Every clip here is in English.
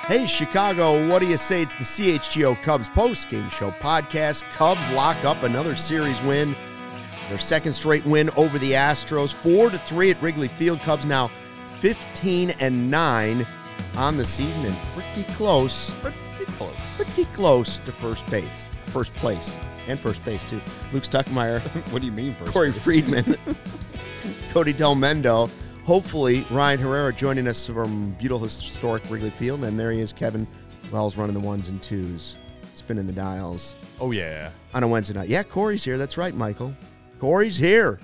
Hey, Chicago, what do you say? It's the CHGO Cubs post-game show podcast. Cubs lock up another series win. Their second straight win over the Astros. 4-3 at Wrigley Field. Cubs now 15-9 on the season and pretty close to first place, and first base, too. Luke Stuckmeyer. What do you mean first Corey base? Friedman. Cody Del Mendo. Hopefully, Ryan Herrera joining us from beautiful historic Wrigley Field. And there he is, Kevin Wells running the ones and twos, spinning the dials. Oh, yeah. On a Wednesday night. Yeah, Corey's here. That's right, Michael. Corey's here.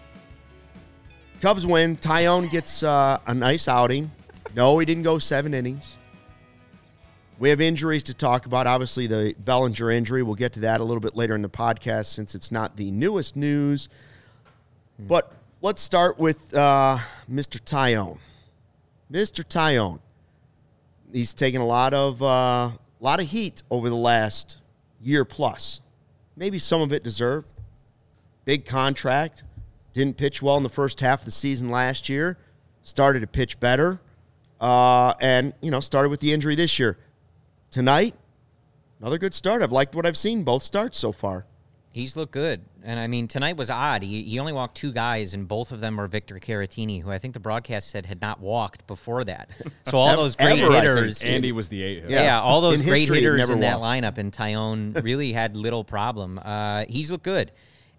Cubs win. Taillon gets a nice outing. No, he didn't go 7 innings. We have injuries to talk about. Obviously, the Bellinger injury. We'll get to that a little bit later in the podcast since it's not the newest news. But let's start with Mr. Taillon. Mr. Taillon. He's taken a lot of heat over the last year plus. Maybe some of it deserved. Big contract. Didn't pitch well in the first half of the season last year. Started to pitch better. And started with the injury this year. Tonight, another good start. I've liked what I've seen both starts so far. He's looked good. And, I mean, tonight was odd. He only walked 2 guys, and both of them were Victor Caratini, who I think the broadcast said had not walked before that. So all those great hitters. Andy was the 8 hitter. Yeah, all those In great history, hitters in never that lineup, and Taillon really had little problem. He's looked good.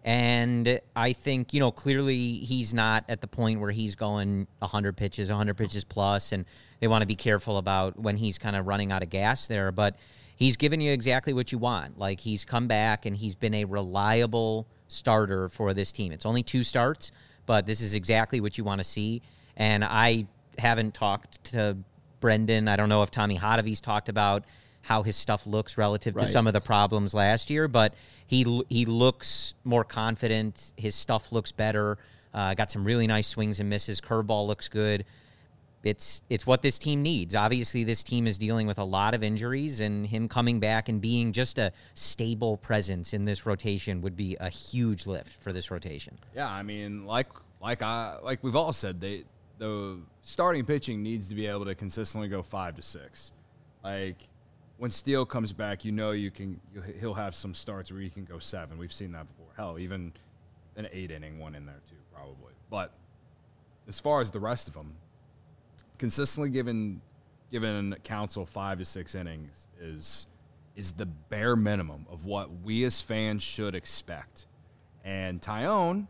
And I think, clearly he's not at the point where he's going 100 pitches plus, and they want to be careful about when he's kind of running out of gas there. But he's given you exactly what you want. Like, he's come back, and he's been a reliable starter for this team. It's only 2 starts, but this is exactly what you want to see. And I haven't talked to Brendan. I don't know if Tommy Hotovy's talked about how his stuff looks relative to some of the problems last year, but he looks more confident. His stuff looks better. Got some really nice swings and misses. Curveball looks good. It's what this team needs. Obviously, this team is dealing with a lot of injuries, and him coming back and being just a stable presence in this rotation would be a huge lift for this rotation. Yeah, I mean, like we've all said, the starting pitching needs to be able to consistently go 5 to 6. Like, when Steele comes back, he'll have some starts where he can go 7. We've seen that before. Hell, even an 8-inning one in there too, probably. But as far as the rest of them, consistently given Counsell 5 to 6 innings is the bare minimum of what we as fans should expect. And Taillon,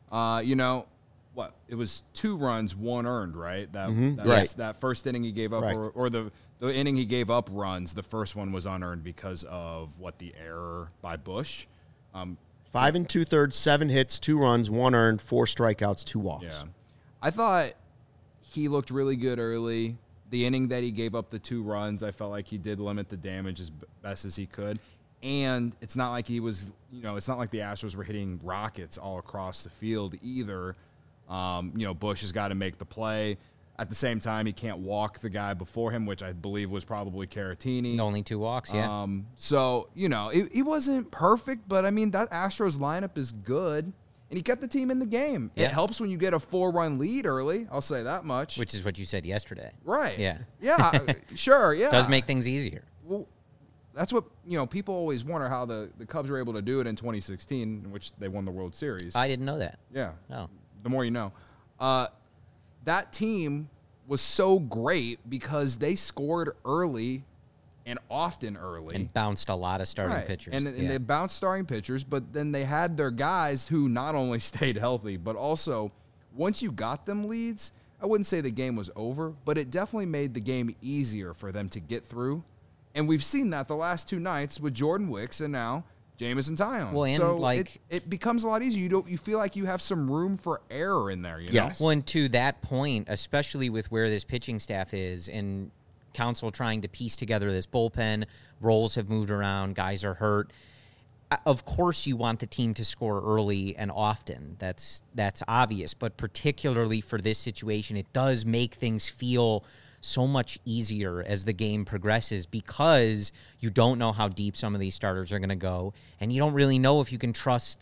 it was 2 runs, 1 earned, right? That first inning he gave up, or the inning he gave up runs, the first one was unearned because of the error by Bush. 5 2/3, 7 hits, 2 runs, 1 earned, 4 strikeouts, 2 walks. Yeah, I thought he looked really good early. The inning that he gave up the 2 runs, I felt like he did limit the damage as best as he could. And it's not like it's not like the Astros were hitting rockets all across the field either. Bush has got to make the play. At the same time, he can't walk the guy before him, which I believe was probably Caratini. Only 2 walks, yeah. So, he wasn't perfect, but, I mean, that Astros lineup is good, and he kept the team in the game. Yeah. It helps when you get a 4-run lead early, I'll say that much. Which is what you said yesterday. Right. Yeah. Yeah, sure, yeah. Does make things easier. Well, that's what, people always wonder how the Cubs were able to do it in 2016, in which they won the World Series. I didn't know that. Yeah. Oh. The more you know. That team was so great because they scored early and often early. And bounced a lot of starting pitchers. And they bounced starting pitchers, but then they had their guys who not only stayed healthy, but also once you got them leads, I wouldn't say the game was over, but it definitely made the game easier for them to get through. And we've seen that the last 2 nights with Jordan Wicks and now Jameson Taillon. Well, and so it becomes a lot easier. You feel like you have some room for error in there. Yes. Well, and to that point, especially with where this pitching staff is and Counsell trying to piece together this bullpen, roles have moved around, guys are hurt. Of course, you want the team to score early and often. That's obvious. But particularly for this situation, it does make things feel so much easier as the game progresses because you don't know how deep some of these starters are going to go, and you don't really know if you can trust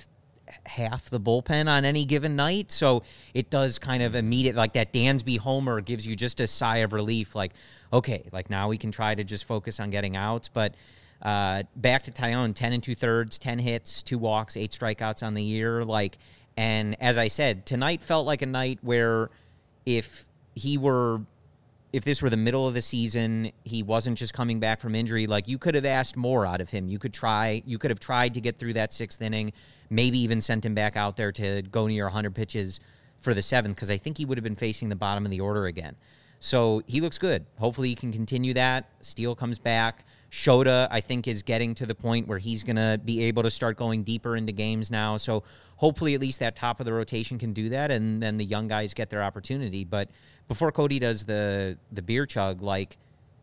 half the bullpen on any given night. So it does kind of immediate, like that Dansby homer gives you just a sigh of relief. Like, okay, like now we can try to just focus on getting outs. But back to Taillon, 10 2/3, 10 hits, 2 walks, 8 strikeouts on the year. Like, and as I said, tonight felt like a night where if this were the middle of the season, he wasn't just coming back from injury, like you could have asked more out of him. You could have tried to get through that 6th inning, maybe even sent him back out there to go near 100 pitches for the 7th, because I think he would have been facing the bottom of the order again. So he looks good. Hopefully he can continue that. Steele comes back. Shota, I think, is getting to the point where he's going to be able to start going deeper into games now. So hopefully at least that top of the rotation can do that, and then the young guys get their opportunity. But before Cody does the beer chug, like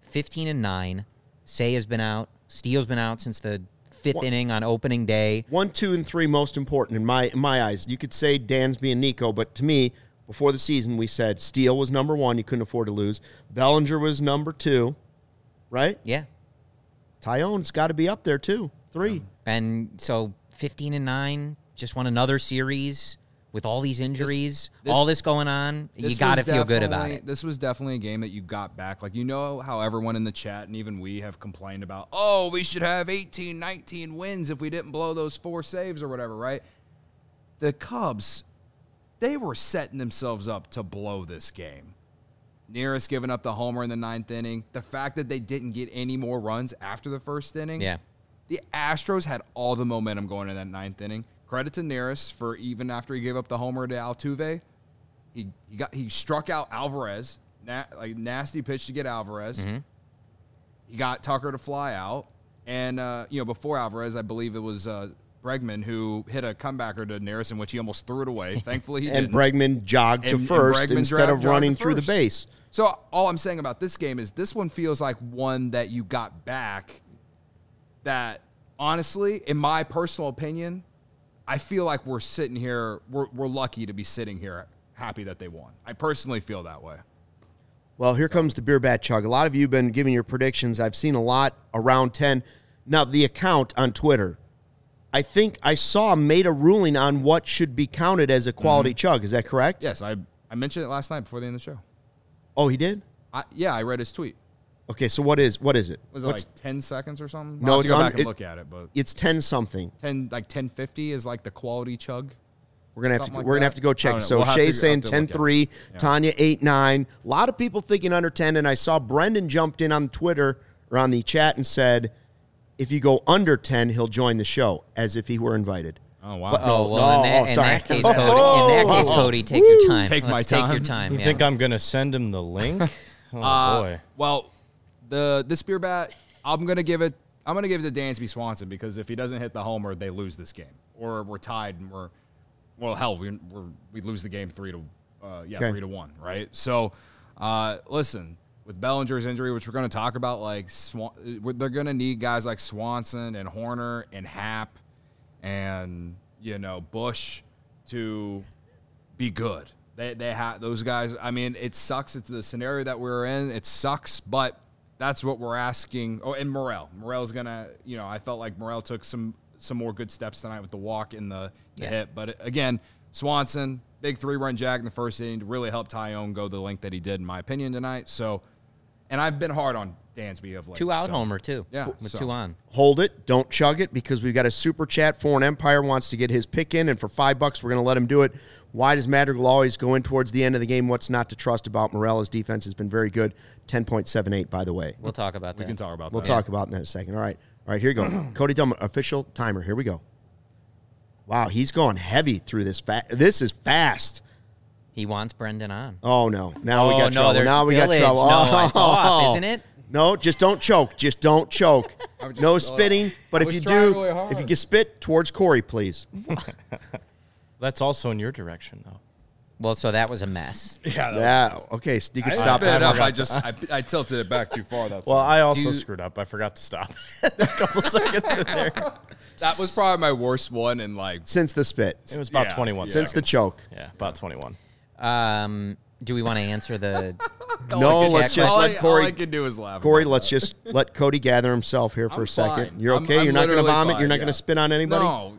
15-9, Say has been out. Steele's been out since the 5th inning on opening day. 1, 2, and 3 most important in my eyes. You could say Dansby and Nico, but to me, before the season, we said Steele was number 1. You couldn't afford to lose. Bellinger was number 2, right? Yeah. Taillon's got to be up there, too. 3. And so 15-9, just won another series with all these injuries, all this going on. You got to feel good about it. This was definitely a game that you got back. Like, you know how everyone in the chat and even we have complained about, oh, we should have 18, 19 wins if we didn't blow those 4 saves or whatever, right? The Cubs, they were setting themselves up to blow this game. Nearest giving up the homer in the 9th inning. The fact that they didn't get any more runs after the 1st inning. Yeah. The Astros had all the momentum going in that 9th inning. Credit to Nearest for even after he gave up the homer to Altuve, he struck out Alvarez. Nasty pitch to get Alvarez. Mm-hmm. He got Tucker to fly out. And, before Alvarez, I believe it was Bregman who hit a comebacker to Nearest in which he almost threw it away. Thankfully, he didn't. And Bregman jogged to first instead of running through the base. So all I'm saying about this game is this one feels like one that you got back that, honestly, in my personal opinion, I feel like we're sitting here, we're lucky to be sitting here happy that they won. I personally feel that way. Well, here comes the beer bat chug. A lot of you have been giving your predictions. I've seen a lot around 10. Now, the account on Twitter, I think I saw made a ruling on what should be counted as a quality chug. Is that correct? Yes, I mentioned it last night before the end of the show. Oh, he did? I read his tweet. Okay, so what is it? Was it like 10 seconds or something? No, I'll have it's to go back and look at it, but it's 10 something. 1050 is like the quality chug. We're gonna have to go check. So Shay's saying 10-3, Tanya 8-9. A lot of people thinking under 10, and I saw Brendan jumped in on Twitter or on the chat and said, if you go under 10, he'll join the show, as if he were invited. Oh wow! But, in that case, Cody, take your time. Take your time. You think I'm gonna send him the link? Oh boy. Well, this beer bat, I'm gonna give it to Dansby Swanson, because if he doesn't hit the homer, they lose this game, or we're tied and we lose the game 3-1, right? So, listen, with Bellinger's injury, which we're going to talk about, like they're going to need guys like Swanson and Horner and Happ and Bush to be good. They have those guys. I mean, it sucks. It's the scenario that we're in. It sucks, but that's what we're asking. Oh, and Morel's gonna. I felt like Morel took some more good steps tonight with the walk and the hit. But again, Swanson, big 3-run jag in the 1st inning to really help Taillon go the length that he did, in my opinion, tonight. So, and I've been hard on Dansby of late. 2-out homer too. Yeah, with 2 on. Hold it, don't chug it, because we've got a super chat. Foreign Empire wants to get his pick in, and for $5, we're going to let him do it. Why does Madrigal always go in towards the end of the game? What's not to trust about Morel? His defense has been very good. 10.78, by the way. We'll talk about that. We can talk about that. We'll talk about that in a second. All right, here you go. Cody Tillman, official timer. Here we go. Wow, he's going heavy through this. This is fast. He wants Brendan on. Oh, no. Now we got trouble. Now we got trouble. No, it's off, isn't it? No, just don't choke. Just don't choke. No spitting. But if you do, if you can spit towards Corey, please. That's also in your direction, though. Well, so that was a mess. Yeah. Okay, so you can stop it up. I tilted it back too far. That's well, I also screwed up. I forgot to stop a couple seconds in there. That was probably my worst one in since the spit. It was about 21 seconds. Since the choke. Yeah, about 21. Do we want to answer the? No, let's just let Corey. All I can do is laugh. Corey, let's just let Cody gather himself here for a second. Fine. You're okay? You're not going to vomit? You're not going to spit on anybody? No.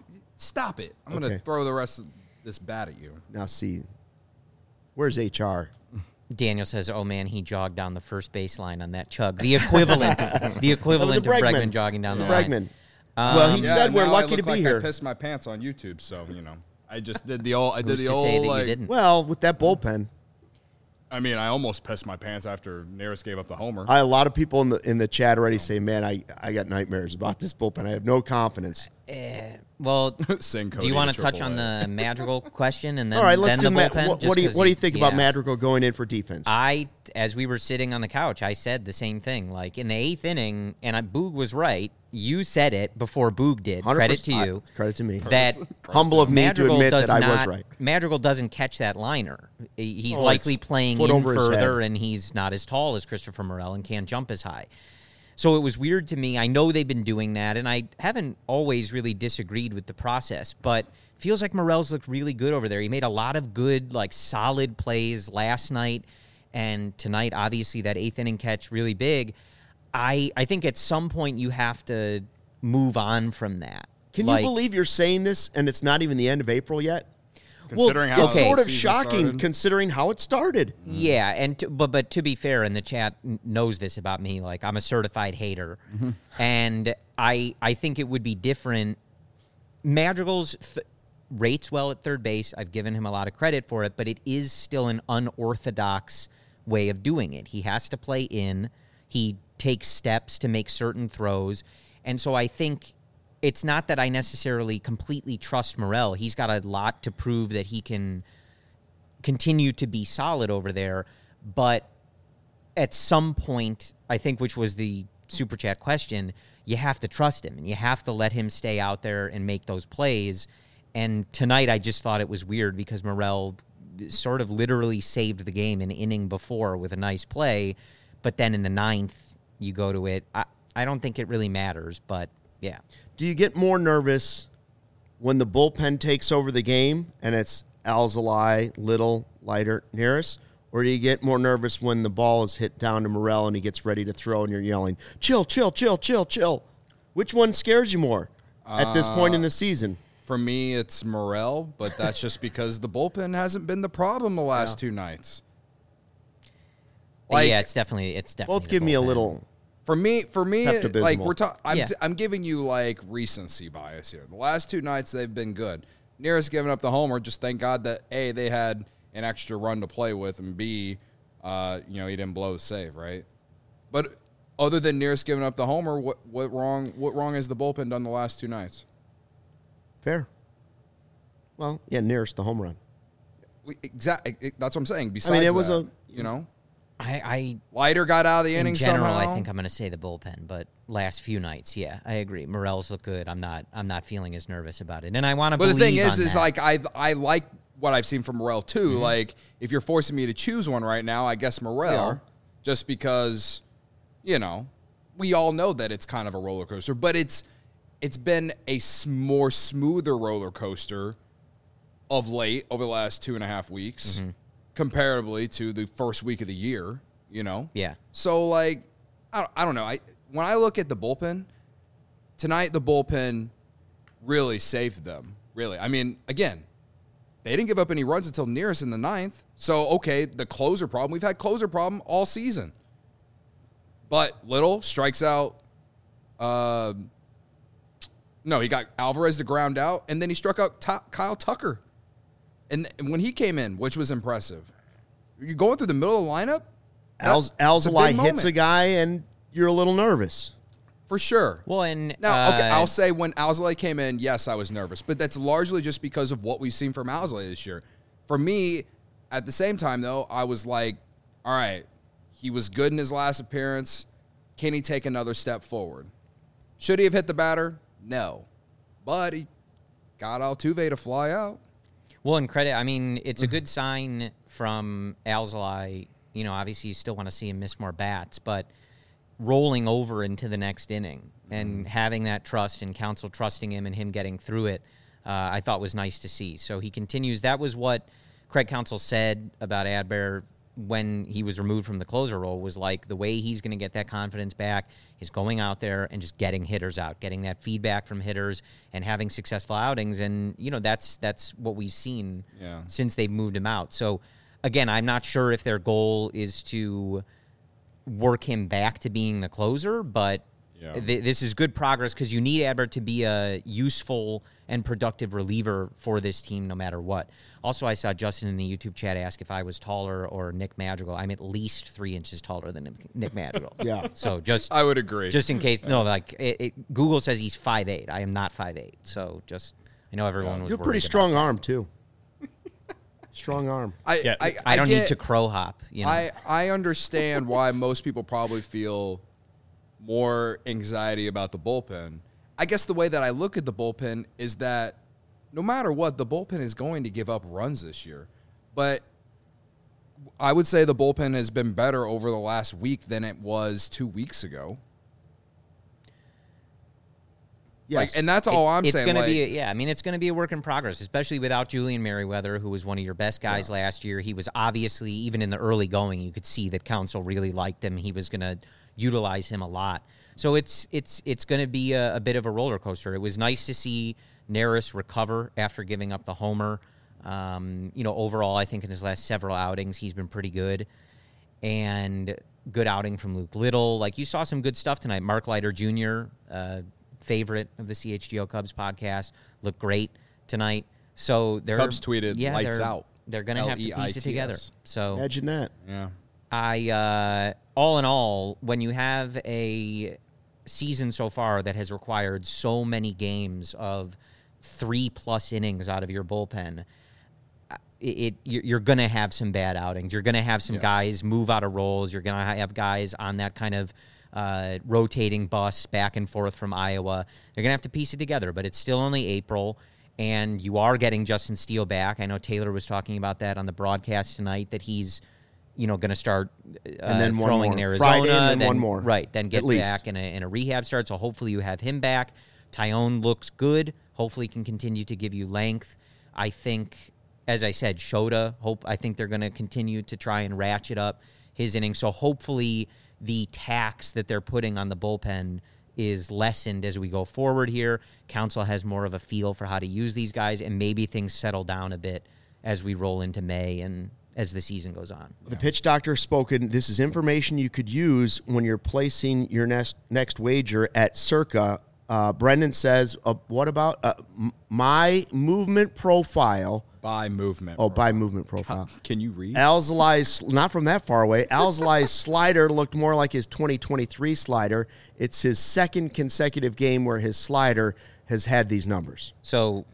Stop it. I'm going to throw the rest of this bat at you. Now, see, where's HR? Daniel says, "Oh man, he jogged down the first baseline on that chug. The equivalent of Bregman jogging down the line." Bregman. Well, he said we're lucky to be here. I pissed my pants on YouTube, so I just did the old. Who's to say that you didn't? Well, with that bullpen. I mean, I almost pissed my pants after Neris gave up the homer. A lot of people in the chat already say, "Man, I got nightmares about this bullpen. I have no confidence." Well, do you want to touch on the Madrigal question and then all right? Let's then do the bullpen? What do you think about Madrigal going in for defense? As we were sitting on the couch, I said the same thing. Like in the 8th inning, and Boog was right. You said it before Boog did. Credit to you. Credit to me. That humble of me to admit that I was right. Madrigal doesn't catch that liner. He's likely playing in further, and he's not as tall as Christopher Morel and can't jump as high. So it was weird to me. I know they've been doing that, and I haven't always really disagreed with the process, but it feels like Morel's looked really good over there. He made a lot of good, solid plays last night, and tonight, obviously, that 8th inning catch, really big. I think at some point you have to move on from that. Can you believe you're saying this, and it's not even the end of April yet? Considering how it's sort of shocking considering how it started. Yeah, and but to be fair, and the chat knows this about me, I'm a certified hater, and I think it would be different. Madrigal's rates well at third base. I've given him a lot of credit for it, but it is still an unorthodox way of doing it. He has to play in. He takes steps to make certain throws, and so I think it's not that I necessarily completely trust Morel. He's got a lot to prove that he can continue to be solid over there. But at some point, I think, which was the Super Chat question, you have to trust him, and you have to let him stay out there and make those plays. And tonight, I just thought it was weird because Morel sort of literally saved the game an inning before with a nice play. But then in the 9th, you go to it. I don't think it really matters, but yeah. Do you get more nervous when the bullpen takes over the game and it's Alzolay, Little, Leiter, Neris? Or do you get more nervous when the ball is hit down to Morel and he gets ready to throw and you're yelling, chill, chill, chill, chill, chill? Which one scares you more at this point in the season? For me, it's Morel, but that's just because the bullpen hasn't been the problem the last 2 nights. Yeah, it's definitely both give me a little. For me, I'm giving you recency bias here. The last 2 nights they've been good. Neris giving up the homer. Just thank God that A, they had an extra run to play with, and B, he didn't blow the save, right? But other than Neris giving up the homer, what wrong has the bullpen done the last 2 nights? Fair. Well, yeah, Neris the home run. Exactly. That's what I'm saying. Besides, it was Leiter got out of the inning somehow. In general, somehow. I think I'm going to say the bullpen, but last few nights, yeah, I agree. Morel's look good. I'm not feeling as nervous about it, and I want to. But the thing is I like what I've seen from Morel too. Mm-hmm. If you're forcing me to choose one right now, I guess Morel, just because, we all know that it's kind of a roller coaster, but it's been a more smoother roller coaster of late over the last 2.5 weeks. Mm-hmm. Comparatively to the first week of the year, Yeah. So, I don't know. When I look at the bullpen, tonight the bullpen really saved them. Really. I mean, again, they didn't give up any runs until Neris in the 9th. So, okay, the closer problem. We've had closer problem all season. But Little strikes out. No, he got Alvarez to ground out, and then he struck out Kyle Tucker. And when he came in, which was impressive, you're going through the middle of the lineup. Alzolay hits a guy, and you're a little nervous. For sure. Well, and now, okay, I'll say when Alzolay came in, yes, I was nervous, but that's largely just because of what we've seen from Alzolay this year. For me, at the same time, though, I was like, all right, he was good in his last appearance. Can he take another step forward? Should he have hit the batter? No. But he got Altuve to fly out. Well, and credit, I mean, it's a good sign from Alzolay. Obviously you still want to see him miss more bats, but rolling over into the next inning and having that trust and Counsell trusting him and him getting through it, I thought was nice to see. So he continues. That was what Craig Counsell said about Adbert when he was removed from the closer role was like the way he's going to get that confidence back is going out there and just getting hitters out, getting that feedback from hitters and having successful outings. And, that's what we've seen since they've moved him out. So, again, I'm not sure if their goal is to work him back to being the closer, but this is good progress because you need Adbert to be a useful and productive reliever for this team no matter what. Also, I saw Justin in the YouTube chat ask if I was taller or Nick Madrigal. I'm at least 3 inches taller than Nick Madrigal. Yeah. So I would agree. Just in case, Google says he's 5'8". I am not 5'8". So I know everyone was You're worried pretty about strong that. arm, too. Strong arm. I don't need to crow hop. I understand why most people probably feel more anxiety about the bullpen. I guess the way that I look at the bullpen is that no matter what, the bullpen is going to give up runs this year. But I would say the bullpen has been better over the last week than it was 2 weeks ago. Yes. And that's all I'm saying. It's going to be, it's going to be a work in progress, especially without Julian Merriweather, who was one of your best guys last year. He was obviously, even in the early going, you could see that Counsell really liked him. He was going to utilize him a lot. So it's going to be a bit of a roller coaster. It was nice to see Neris recover after giving up the homer. Overall, I think in his last several outings, he's been pretty good. And good outing from Luke Little. Like, you saw some good stuff tonight. Mark Leiter Jr., favorite of the CHGO Cubs podcast, looked great tonight. So they're Cubs tweeted, lights out. They're going to have to piece it together. So imagine that. Yeah. All in all, when you have a season so far that has required so many games of 3+ innings out of your bullpen, you're going to have some bad outings. You're going to have some guys move out of roles. You're going to have guys on that kind of rotating bus back and forth from Iowa. They're going to have to piece it together, but it's still only April, and you are getting Justin Steele back. I know Taylor was talking about that on the broadcast tonight, that he's going to start and then throwing in Arizona. Friday and then one more. Right, then get back in a rehab start, so hopefully you have him back. Tyone looks good. Hopefully can continue to give you length. I think, as I said, Shota, I think they're going to continue to try and ratchet up his innings, so hopefully the tax that they're putting on the bullpen is lessened as we go forward here. Counsell has more of a feel for how to use these guys, and maybe things settle down a bit as we roll into May and as the season goes on. The pitch doctor spoken. This is information you could use when you're placing your next wager at Circa. Brendan says, what about my movement profile? By movement. Oh, by movement profile. Can you read? Alzolai's, not from that far away, Alzolai's slider looked more like his 2023 slider. It's his second consecutive game where his slider has had these numbers. So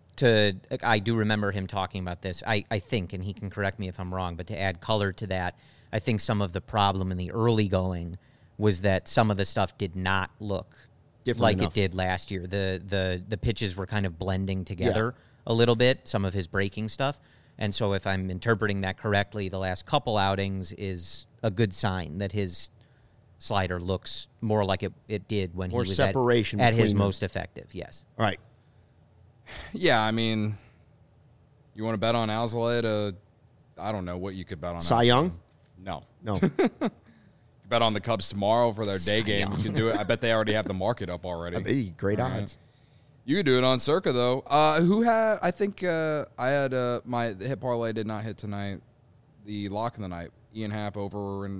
I do remember him talking about this. I think, and he can correct me if I'm wrong, but to add color to that, I think some of the problem in the early going was that some of the stuff did not look different like enough. It did last year. The pitches were kind of blending together a little bit, some of his breaking stuff. And so if I'm interpreting that correctly, the last couple outings is a good sign that his slider looks more like it did when More he was separation at his between them. most effective, yes. All right. Yeah, I mean, you want to bet on Alzolay I don't know what you could bet on. Cy Alzolay. Young? No. No. Bet on the Cubs tomorrow for their day game. You can do it. I bet they already have the market up already. Hey, great All odds. You could do it on Circa, though. Who had, I think I had my hit parlay did not hit tonight. The lock of the night. Ian Happ over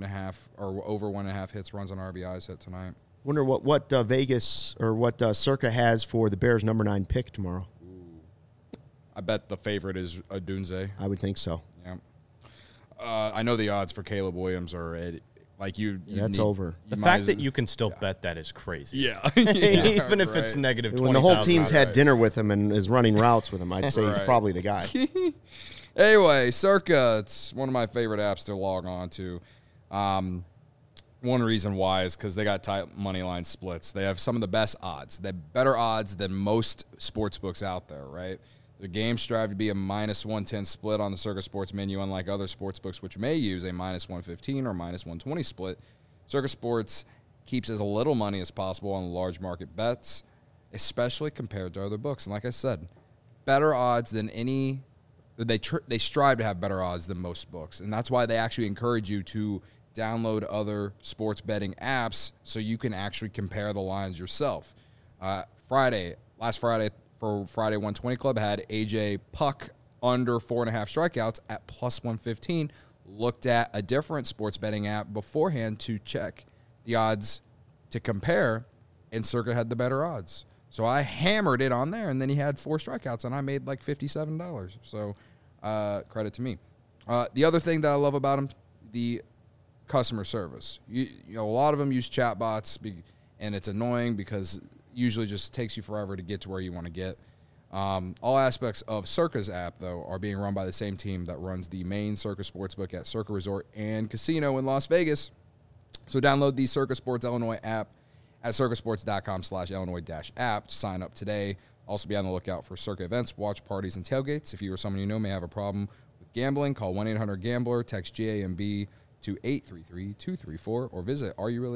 1.5 hits, runs on RBIs hit tonight. Wonder what Vegas or what Circa has for the Bears' number 9 pick tomorrow. I bet the favorite is Adunze. I would think so. Yeah. I know the odds for Caleb Williams are like you. That's over. The fact that you can still bet that is crazy. Yeah. Even if it's negative 20,000. When the whole team's had Right. dinner with him and is running routes with him, I'd say he's Right. probably the guy. Anyway, Circa, it's one of my favorite apps to log on to. One reason why is because they got tight money line splits. They have some of the best odds. They have better odds than most sports books out there, right? The games strive to be a -110 split on the Circa Sports menu, unlike other sports books which may use a -115 or -120 split. Circa Sports keeps as little money as possible on large market bets, especially compared to other books. And like I said, better odds than they strive to have better odds than most books, and that's why they actually encourage you to download other sports betting apps so you can actually compare the lines yourself. Last Friday for Friday 120 Club had AJ Puck under 4.5 strikeouts at plus 115. Looked at a different sports betting app beforehand to check the odds to compare, and Circa had the better odds. So I hammered it on there, and then he had 4 strikeouts, and I made like $57. So credit to me. The other thing that I love about him, the customer service. You know, a lot of them use chatbots, and it's annoying because it usually just takes you forever to get to where you want to get. All aspects of Circa's app, though, are being run by the same team that runs the main Circa Sportsbook at Circa Resort and Casino in Las Vegas. So download the Circa Sports Illinois app at circasports.com/Illinois-app to sign up today. Also be on the lookout for Circa events, watch parties, and tailgates. If you or someone you know may have a problem with gambling, call 1-800-GAMBLER, text GAMB to 833-234, or visit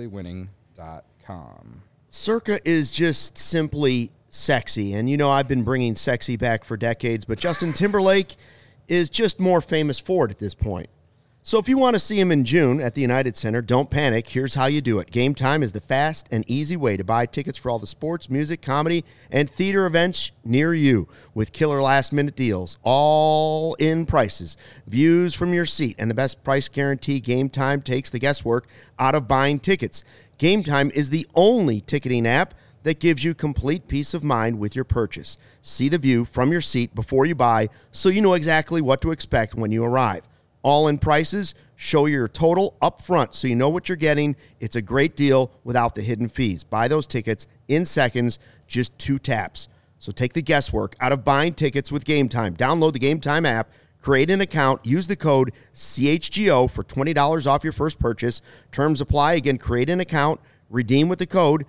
areyourreallywinning.com. Circa is just simply sexy. And, you know, I've been bringing sexy back for decades, but Justin Timberlake is just more famous for it at this point. So if you want to see him in June at the United Center, don't panic. Here's how you do it. Game Time is the fast and easy way to buy tickets for all the sports, music, comedy, and theater events near you with killer last-minute deals, all in prices, views from your seat, and the best price guarantee. Game Time takes the guesswork out of buying tickets. Game Time is the only ticketing app that gives you complete peace of mind with your purchase. See the view from your seat before you buy so you know exactly what to expect when you arrive. All-in prices, show your total up front so you know what you're getting. It's a great deal without the hidden fees. Buy those tickets in seconds, just 2 taps. So take the guesswork out of buying tickets with Game Time. Download the Game Time app, create an account, use the code CHGO for $20 off your first purchase. Terms apply. Again, create an account, redeem with the code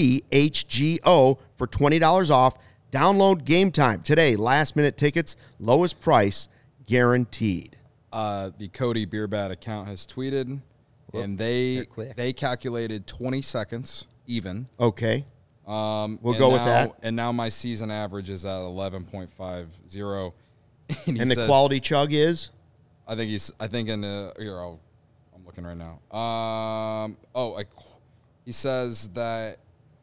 CHGO for $20 off. Download Game Time today. Last-minute tickets, lowest price guaranteed. The Cody Beerbat account has tweeted, and they calculated 20 seconds even. Okay. We'll go with that. And now my season average is at 11.50. And the quality chug is? I think in the here, I'm looking right now. He says that.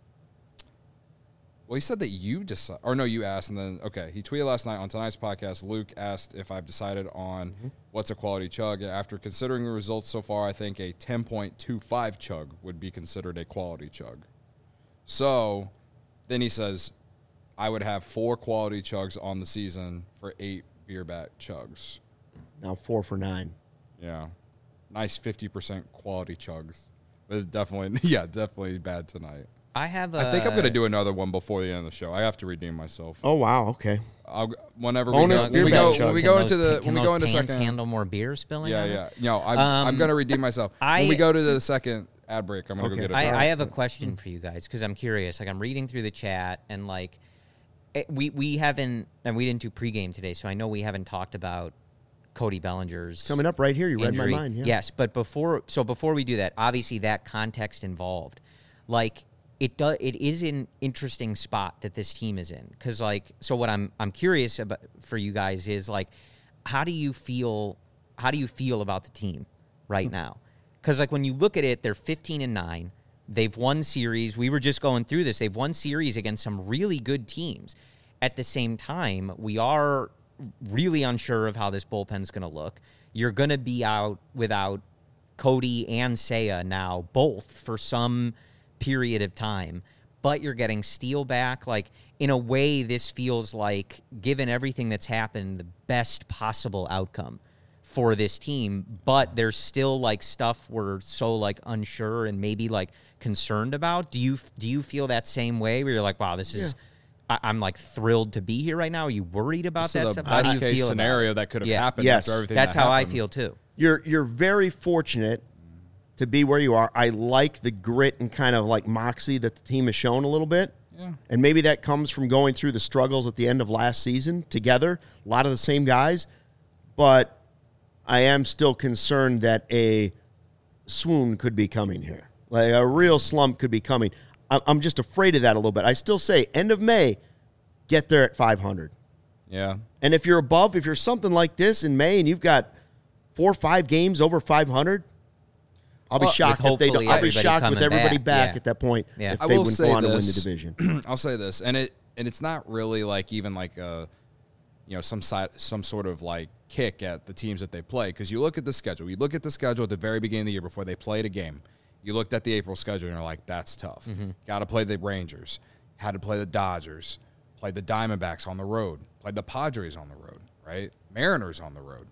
Well, he said that you decide, or no, you asked, and then, okay, he tweeted last night on tonight's podcast. Luke asked if I've decided on what's a quality chug. After considering the results so far, I think a 10.25 chug would be considered a quality chug. So then he says, I would have 4 quality chugs on the season for 8 Beerbat chugs. Now 4 for 9. Yeah. Nice 50% quality chugs. But definitely bad tonight. I think I'm going to do another one before the end of the show. I have to redeem myself. Oh, wow. Okay. Whenever Bonus when we go into pans second handle more beer spilling. Yeah. No, I'm going to redeem myself. When we go to the second ad break, I'm going to go get it. I have a question for you guys because I'm curious. Like, I'm reading through the chat, and like we haven't, and we didn't do pregame today, so I know we haven't talked about Cody Bellinger's coming up right here. You injury. read my mind. Yeah. Yes, but before we do that, obviously that context involved, like. It is an interesting spot that this team is in because, like, so what I'm curious about for you guys is, like, how do you feel about the team right now? Because, like, when you look at it, they're 15-9. They've won series. We were just going through this. They've won series against some really good teams. At the same time, we are really unsure of how this bullpen's going to look. You're going to be out without Cody and Seiya now, both for some period of time, but you're getting Steele back. Like, in a way, this feels like, given everything that's happened, the best possible outcome for this team, but there's still, like, stuff we're so, like, unsure and maybe, like, concerned about. Do you feel that same way where you're like, wow, this is I'm like thrilled to be here right now? Are you worried about that stuff? How do you feel case scenario that could have happened after everything that's that how happened. I feel too. You're very fortunate to be where you are. I like the grit and kind of like moxie that the team has shown a little bit. Yeah. And maybe that comes from going through the struggles at the end of last season together, a lot of the same guys. But I am still concerned that a swoon could be coming here. Like a real slump could be coming. I'm just afraid of that a little bit. I still say end of May, get there at 500. Yeah. And if you're something like this in May and you've got 4 or 5 games over 500, I'll be shocked if they don't. I'll be shocked with everybody back at that point if they wouldn't go on to win the division. I'll say this, and it's not really like even like a, some sort of like kick at the teams that they play, because you look at the schedule. You look at the schedule at the very beginning of the year before they played a game. You looked at the April schedule and you're like, that's tough. Got to play the Rangers, had to play the Dodgers, played the Diamondbacks on the road, played the Padres on the road, right? Mariners on the road.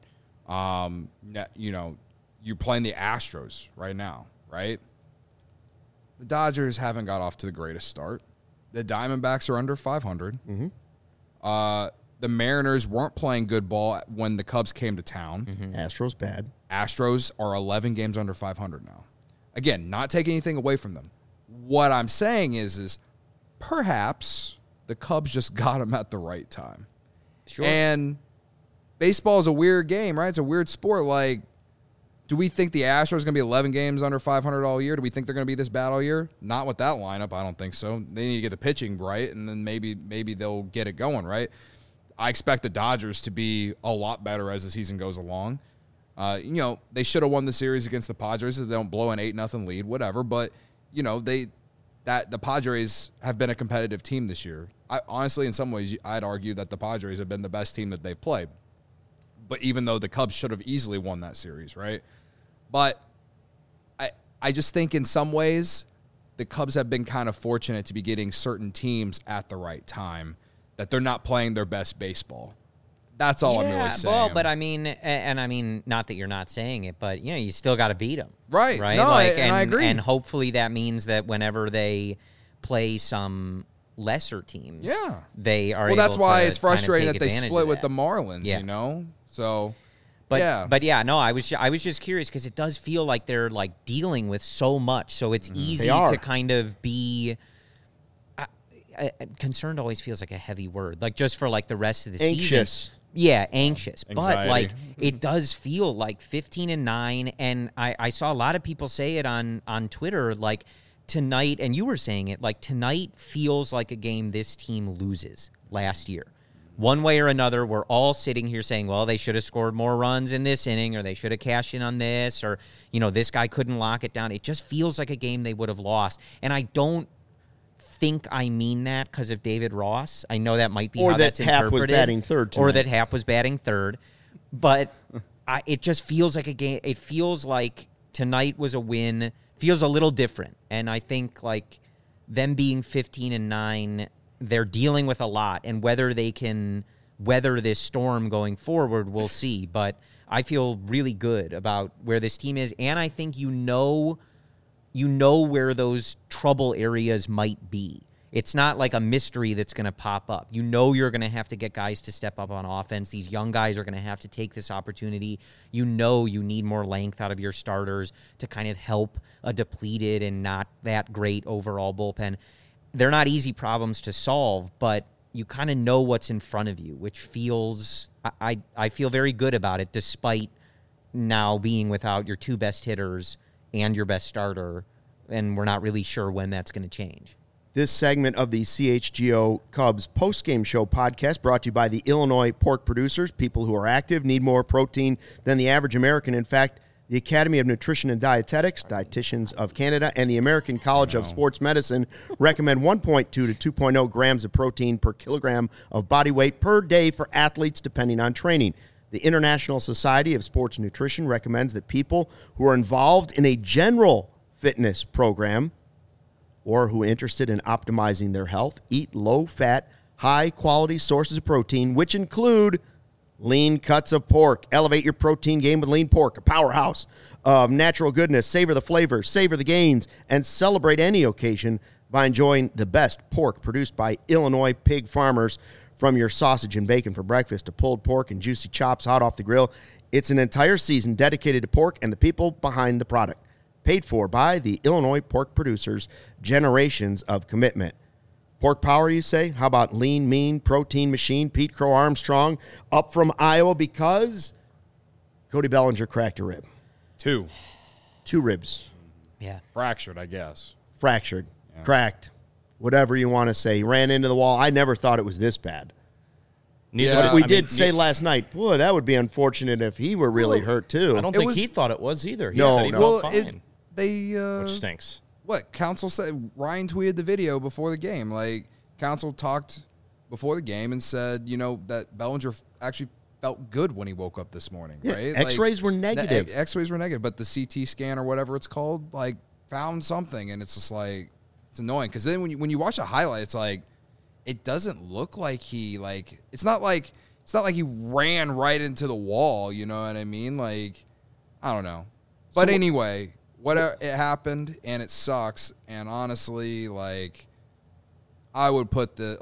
You're playing the Astros right now, right? The Dodgers haven't got off to the greatest start. The Diamondbacks are under 500. The Mariners weren't playing good ball when the Cubs came to town. Astros bad. Astros are 11 games under 500 now. Again, not taking anything away from them. What I'm saying is perhaps the Cubs just got them at the right time. Sure. And baseball is a weird game, right? It's a weird sport. Like, do we think the Astros are going to be 11 games under 500 all year? Do we think they're going to be this bad all year? Not with that lineup. I don't think so. They need to get the pitching right, and then maybe they'll get it going, right? I expect the Dodgers to be a lot better as the season goes along. They should have won the series against the Padres if they don't blow an 8-0 lead, whatever. But, the Padres have been a competitive team this year. Honestly, in some ways, I'd argue that the Padres have been the best team that they've played. But even though the Cubs should have easily won that series, right? But I just think in some ways the Cubs have been kind of fortunate to be getting certain teams at the right time, that they're not playing their best baseball. That's all I'm really saying. Well, but I mean, not that you're not saying it, but you still got to beat them, right? Right? No, I agree. And hopefully that means that whenever they play some lesser teams, they are. Well, that's why it's frustrating kind of that they split with the Marlins. So. But I was just curious because it does feel like they're like dealing with so much, so it's easy to kind of be. Concerned always feels like a heavy word, like just for like the rest of the season. Yeah, anxious. Anxiety. But like it does feel like 15-9, and I saw a lot of people say it on Twitter, like tonight, and you were saying it, like tonight feels like a game this team loses last year. One way or another, we're all sitting here saying, well, they should have scored more runs in this inning, or they should have cashed in on this, or, this guy couldn't lock it down. It just feels like a game they would have lost. And I don't think I mean that because of David Ross. I know that might be how that's interpreted. Or that Happ was batting third tonight. Or that Happ was batting third. But it just feels like a game. It feels like tonight was a win. Feels a little different. And I think, like, them being 15-9, they're dealing with a lot, and whether they can weather this storm going forward, we'll see. But I feel really good about where this team is, and I think you know where those trouble areas might be. It's not like a mystery that's going to pop up. You're going to have to get guys to step up on offense. These young guys are going to have to take this opportunity. You need more length out of your starters to kind of help a depleted and not that great overall bullpen. They're not easy problems to solve, but you kind of know what's in front of you, which feels I feel very good about it, despite now being without your 2 best hitters and your best starter, and we're not really sure when that's going to change. This segment of the CHGO Cubs postgame show podcast brought to you by the Illinois pork producers. People who are active need more protein than the average American. In fact, the Academy of Nutrition and Dietetics, Dietitians of Canada, and the American College of Sports Medicine recommend 1.2 to 2.0 grams of protein per kilogram of body weight per day for athletes, depending on training. The International Society of Sports Nutrition recommends that people who are involved in a general fitness program or who are interested in optimizing their health eat low-fat, high-quality sources of protein, which include lean cuts of pork. Elevate your protein game with lean pork, a powerhouse of natural goodness. Savor the flavors, savor the gains, and celebrate any occasion by enjoying the best pork produced by Illinois pig farmers. From your sausage and bacon for breakfast to pulled pork and juicy chops hot off the grill, it's an entire season dedicated to pork and the people behind the product. Paid for by the Illinois pork producers, generations of commitment. Pork power, you say? How about Lean Mean Protein Machine, Pete Crow Armstrong, up from Iowa because Cody Bellinger cracked a rib. 2 ribs. Yeah. Fractured, I guess. Fractured, cracked, whatever you want to say. He ran into the wall. I never thought it was this bad. Yeah, We did say last night, boy, that would be unfortunate if he were really hurt too. I don't think he thought it was either. He No, said he no. felt fine, which They stinks. what Council said. Ryan tweeted the video before the game. Like Council talked before the game and said, that Bellinger actually felt good when he woke up this morning. Yeah, Right? X-rays were the negative. X-rays were negative, but the CT scan or whatever it's called, like found something, and it's just like it's annoying because then when you watch the highlight, it's like it doesn't look like he like it's not like he ran right into the wall. You know what I mean? Like I don't know, but anyway, whatever it happened and it sucks. And honestly, like I would put this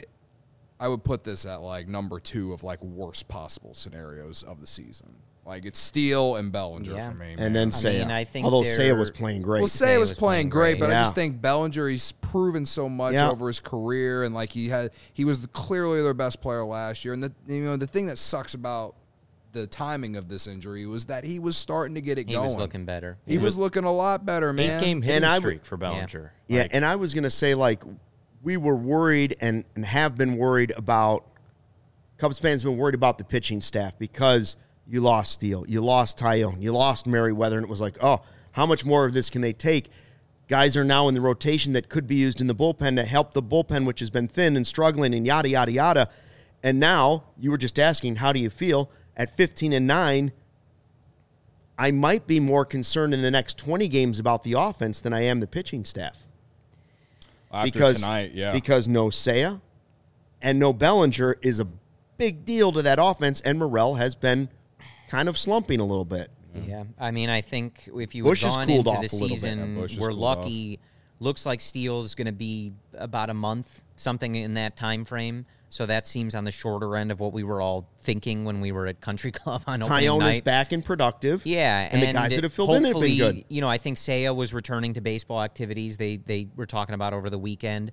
at like number 2 of like worst possible scenarios of the season. Like it's Steele and Bellinger for me. And then Seiya. I think although they're- Seiya was playing great. Well, Seiya was playing great, but I Yeah. just think Bellinger, he's proven so much over his career, and like he was clearly their best player last year. And the thing that sucks about the timing of this injury was that he was starting to get it He going. was looking better. He was looking a lot better, man. 8-game hitting And streak for Bellinger. Yeah, Like, and I was going to say, like, we were worried and have been worried about, Cubs fans have been worried about the pitching staff because you lost Steele, you lost Tyone, you lost Merriweather, and it was like, oh, how much more of this can they take? Guys are now in the rotation that could be used in the bullpen to help the bullpen, which has been thin and struggling and yada, yada, yada. And now you were just asking, how do you feel? At 15-9, I might be more concerned in the next 20 games about the offense than I am the pitching staff. After tonight, yeah. Because no Seiya and no Bellinger is a big deal to that offense, and Morel has been kind of slumping a little bit. Yeah, I mean, I think if you Bush had has gone cooled into off the a little bit. season, Bush has we're cooled lucky. Looks like Steele's going to be about a month, something in that time frame. So that seems on the shorter end of what we were all thinking when we were at Country Club on opening Tyone night. is back and productive. Yeah, and the guys that have filled in have been good. I think Seiya was returning to baseball activities. They were talking about over the weekend,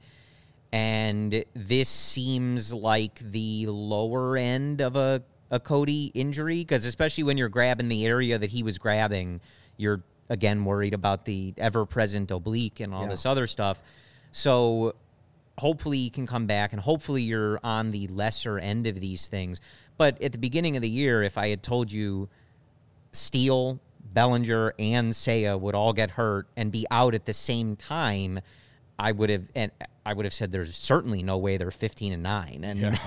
and this seems like the lower end of a Cody injury, because especially when you're grabbing the area that he was grabbing, you're again worried about the ever-present oblique and all this other stuff. So hopefully he can come back, and hopefully you're on the lesser end of these things. But at the beginning of the year, if I had told you Steele, Bellinger, and Seiya would all get hurt and be out at the same time, I would have said there's certainly no way they're 15-9.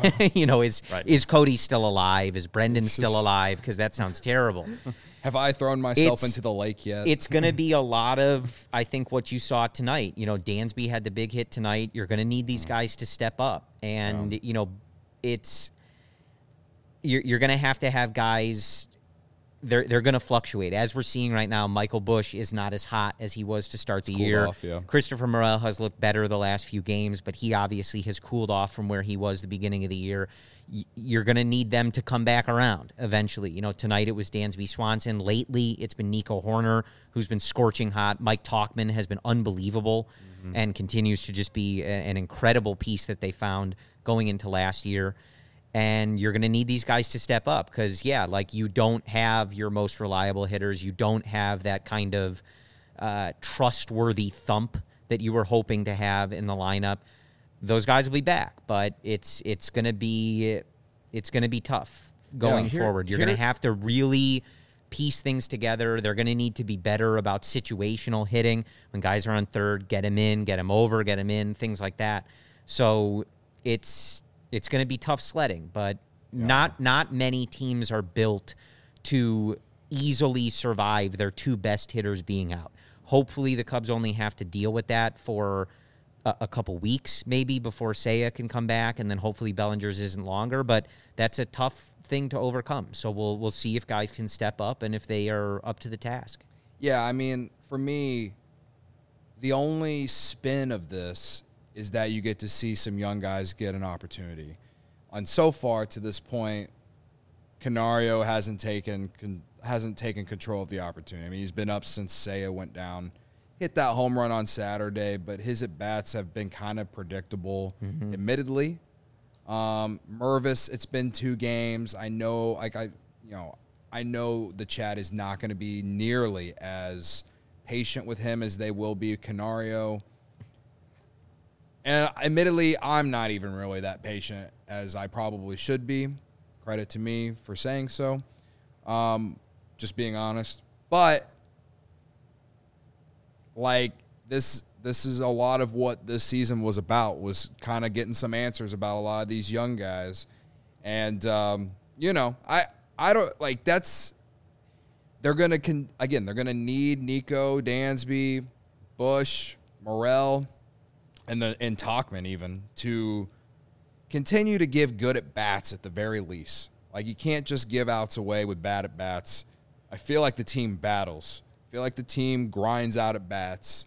And is Cody still alive? Is Brendan still alive? Because that sounds terrible. Have I thrown myself into the lake yet? It's going to be a lot of, I think, what you saw tonight. Dansby had the big hit tonight. You're going to need these guys to step up. And, it's you're going to have guys, they're going to fluctuate. As we're seeing right now, Michael Bush is not as hot as he was to start the year. Off, yeah. Christopher Morel has looked better the last few games, but he obviously has cooled off from where he was the beginning of the year. You're going to need them to come back around eventually. Tonight it was Dansby Swanson. Lately, it's been Nico Horner, who's been scorching hot. Mike Talkman has been unbelievable and continues to just be an incredible piece that they found going into last year. And you're going to need these guys to step up because, you don't have your most reliable hitters. You don't have that kind of trustworthy thump that you were hoping to have in the lineup. Those guys will be back, but it's going to be tough going forward. You're going to have to really piece things together. They're going to need to be better about situational hitting. When guys are on third, get them in, get them over, get them in, things like that. So it's going to be tough sledding, but not many teams are built to easily survive their two best hitters being out. Hopefully the Cubs only have to deal with that for a couple weeks maybe before Seiya can come back, and then hopefully Bellinger's isn't longer, but that's a tough thing to overcome. So we'll see if guys can step up and if they are up to the task. Yeah, I mean, for me, the only spin of this is that you get to see some young guys get an opportunity. And so far to this point, Canario hasn't taken control of the opportunity. I mean, he's been up since Seiya went down. Hit that home run on Saturday, but his at-bats have been kind of predictable, admittedly. Mervis, it's been 2 games. I know, I know the Chat is not going to be nearly as patient with him as they will be Canario. And admittedly, I'm not even really that patient as I probably should be. Credit to me for saying so. Just being honest. But like this is a lot of what this season was about, was kind of getting some answers about a lot of these young guys. And you know, I don't like that's they're going to need Nico, Dansby, Bush, Morel, and Tauchman even to continue to give good at bats at the very least. Like, you can't just give outs away with bad at bats. I feel like the team battles. I feel like the team grinds out at bats,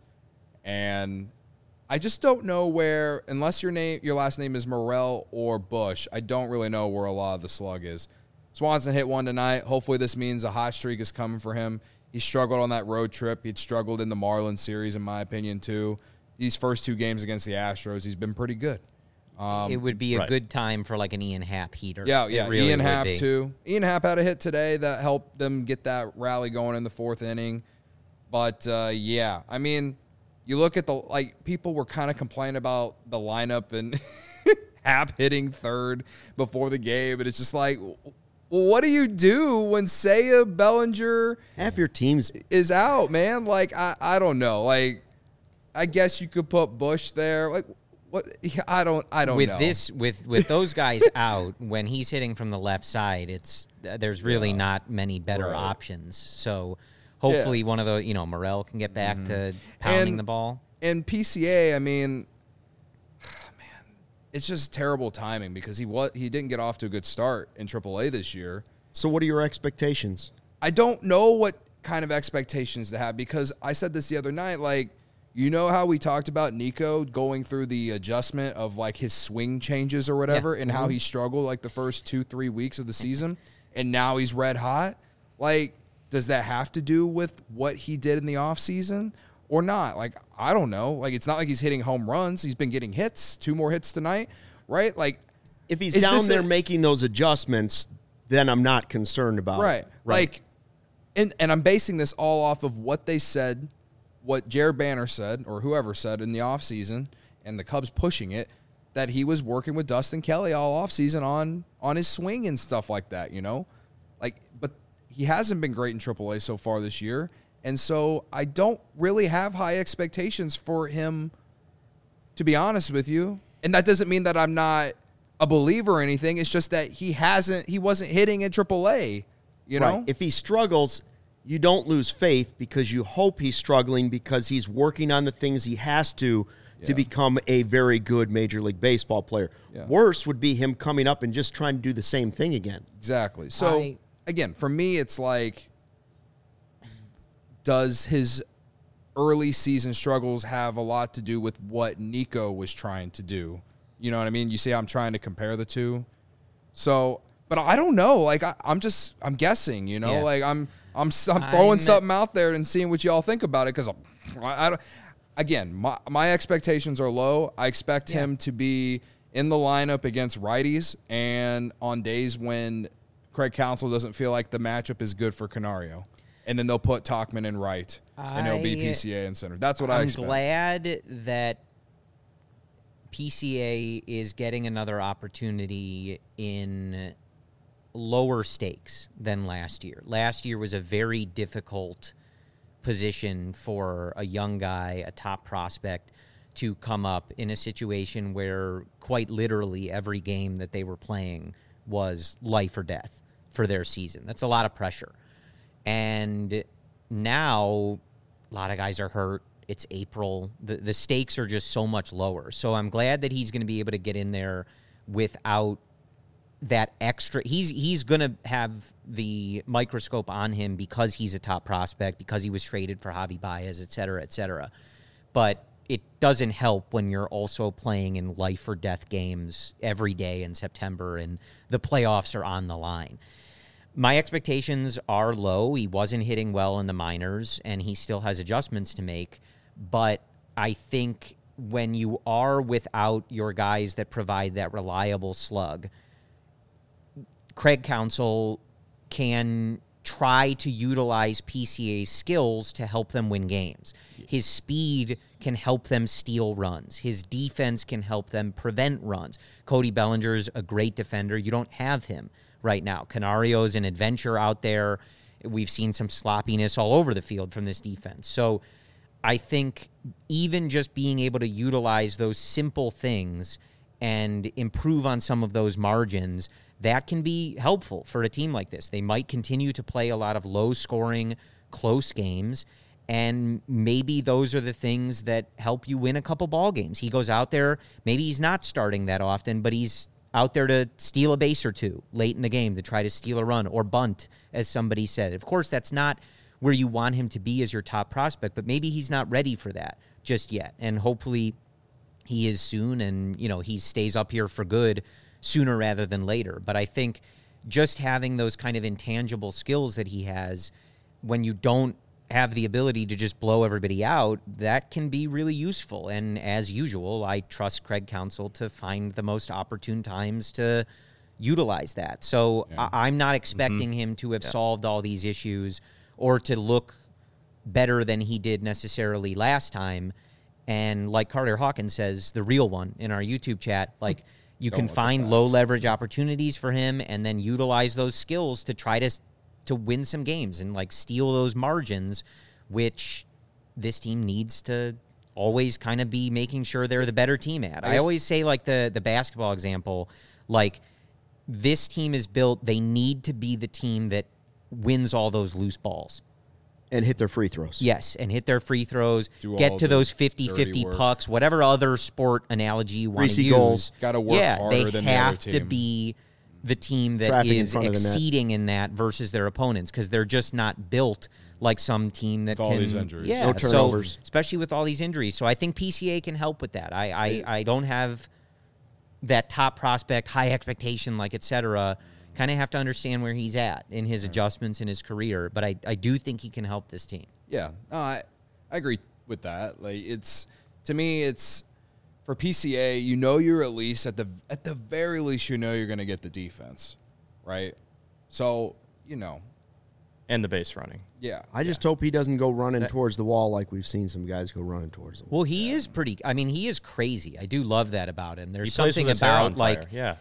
and I just don't know where, unless your last name is Morel or Bush, I don't really know where a lot of the slug is. Swanson hit one tonight. Hopefully this means a hot streak is coming for him. He struggled on that road trip. He'd struggled in the Marlins series, in my opinion, too. These first 2 games against the Astros, he's been pretty good. It would be a good time for like an Ian Happ heater. Yeah. Really Ian Happ, too. Ian Happ had a hit today that helped them get that rally going in the 4th inning. But, yeah, I mean, you look at people were kind of complaining about the lineup and Happ hitting 3rd before the game. And it's just like, well, what do you do when Seiya, Bellinger, half your teams is out, man? Like, I don't know. Like, I guess you could put Bush there. Like, what? I don't know. With those guys out, when he's hitting from the left side, there's really not many better options. So hopefully one of the, Morel can get back to pounding the ball. And PCA, I mean, man, it's just terrible timing because he didn't get off to a good start in AAA this year. So what are your expectations? I don't know what kind of expectations to have, because I said this the other night, like, you know how we talked about Nico going through the adjustment of like his swing changes or whatever, and how he struggled like the first 2-3 weeks of the season, and now he's red hot? Like, does that have to do with what he did in the offseason or not? Like, I don't know. Like, it's not like he's hitting home runs. He's been getting hits, 2 more hits tonight, right? Like, if he's down there making those adjustments, then I'm not concerned about it. Right. Like, and I'm basing this all off of what they said, what Jared Banner said, or whoever said in the offseason, and the Cubs pushing it, that he was working with Dustin Kelly all offseason on his swing and stuff like that, Like, but he hasn't been great in AAA so far this year, and so I don't really have high expectations for him, to be honest with you. And that doesn't mean that I'm not a believer or anything. It's just that he wasn't hitting in AAA, you know? Right. If he struggles, you don't lose faith, because you hope he's struggling because he's working on the things he has to become a very good Major League Baseball player. Yeah. Worse would be him coming up and just trying to do the same thing again. Exactly. So, again, for me, it's like, does his early season struggles have a lot to do with what Nico was trying to do? You know what I mean? You see, I'm trying to compare the two. So, but I don't know. Like, I'm guessing, like I'm throwing something out there and seeing what y'all think about it, because I don't. Again, my expectations are low. I expect him to be in the lineup against righties and on days when Craig Counsell doesn't feel like the matchup is good for Canario. And then they'll put Tauchman in right, and it'll be PCA in center. That's what I expect. I'm glad that PCA is getting another opportunity in lower stakes than last year. Last year was a very difficult position for a young guy, a top prospect, to come up in a situation where quite literally every game that they were playing was life or death for their season. That's a lot of pressure. And now a lot of guys are hurt. It's April. The stakes are just so much lower. So I'm glad that he's going to be able to get in there without that extra. He's going to have the microscope on him because he's a top prospect, because he was traded for Javi Baez, et cetera, et cetera. But it doesn't help when you're also playing in life or death games every day in September and the playoffs are on the line. My expectations are low. He wasn't hitting well in the minors, and he still has adjustments to make. But I think when you are without your guys that provide that reliable slug, Craig Counsell can try to utilize PCA's skills to help them win games. His speed can help them steal runs. His defense can help them prevent runs. Cody Bellinger's a great defender. You don't have him right now. Canario's an adventure out there. We've seen some sloppiness all over the field from this defense. So I think even just being able to utilize those simple things and improve on some of those margins, that can be helpful for a team like this. They might continue to play a lot of low-scoring, close games, and maybe those are the things that help you win a couple ball games. He goes out there, maybe he's not starting that often, but he's out there to steal a base or two late in the game to try to steal a run or bunt, as somebody said. Of course, that's not where you want him to be as your top prospect, but maybe he's not ready for that just yet. And hopefully he is soon, and, you know, he stays up here for good sooner rather than later. But I think just having those kind of intangible skills that he has, when you don't have the ability to just blow everybody out, that can be really useful. And as usual, I trust Craig Counsell to find the most opportune times to utilize that. So I'm not expecting him to have solved all these issues or to look better than he did necessarily last time. And like Carter Hawkins says, the real one in our YouTube chat, like, you can find low leverage opportunities for him and then utilize those skills to try to win some games and like steal those margins, which this team needs to always kind of be making sure they're the better team at. I always say, like the basketball example, like, this team is built, they need to be the team that wins all those loose balls. And hit their free throws. Yes, and hit their free throws, get to those 50-50 pucks, whatever other sport analogy you want to use. Goals. Got to work harder than the other team. They have to be the team that is exceeding in that versus their opponents, because they're just not built like some team that with all these injuries. Yeah, no turnovers. So, especially with all these injuries. So I think PCA can help with that. I don't have that top prospect, high expectation, like, et cetera. Kind of have to understand where he's at in his adjustments in his career, but I do think he can help this team. Yeah, no, I agree with that. Like, to me, it's for PCA. You know, you're at least at the very least, you know, you're going to get the defense, right? So, you know, and the base running. Yeah, I just hope he doesn't go running towards the wall like we've seen some guys go running towards the wall. Well, he is pretty. I mean, he is crazy. I do love that about him. There's He plays something with his hair on about fire. like. Yeah.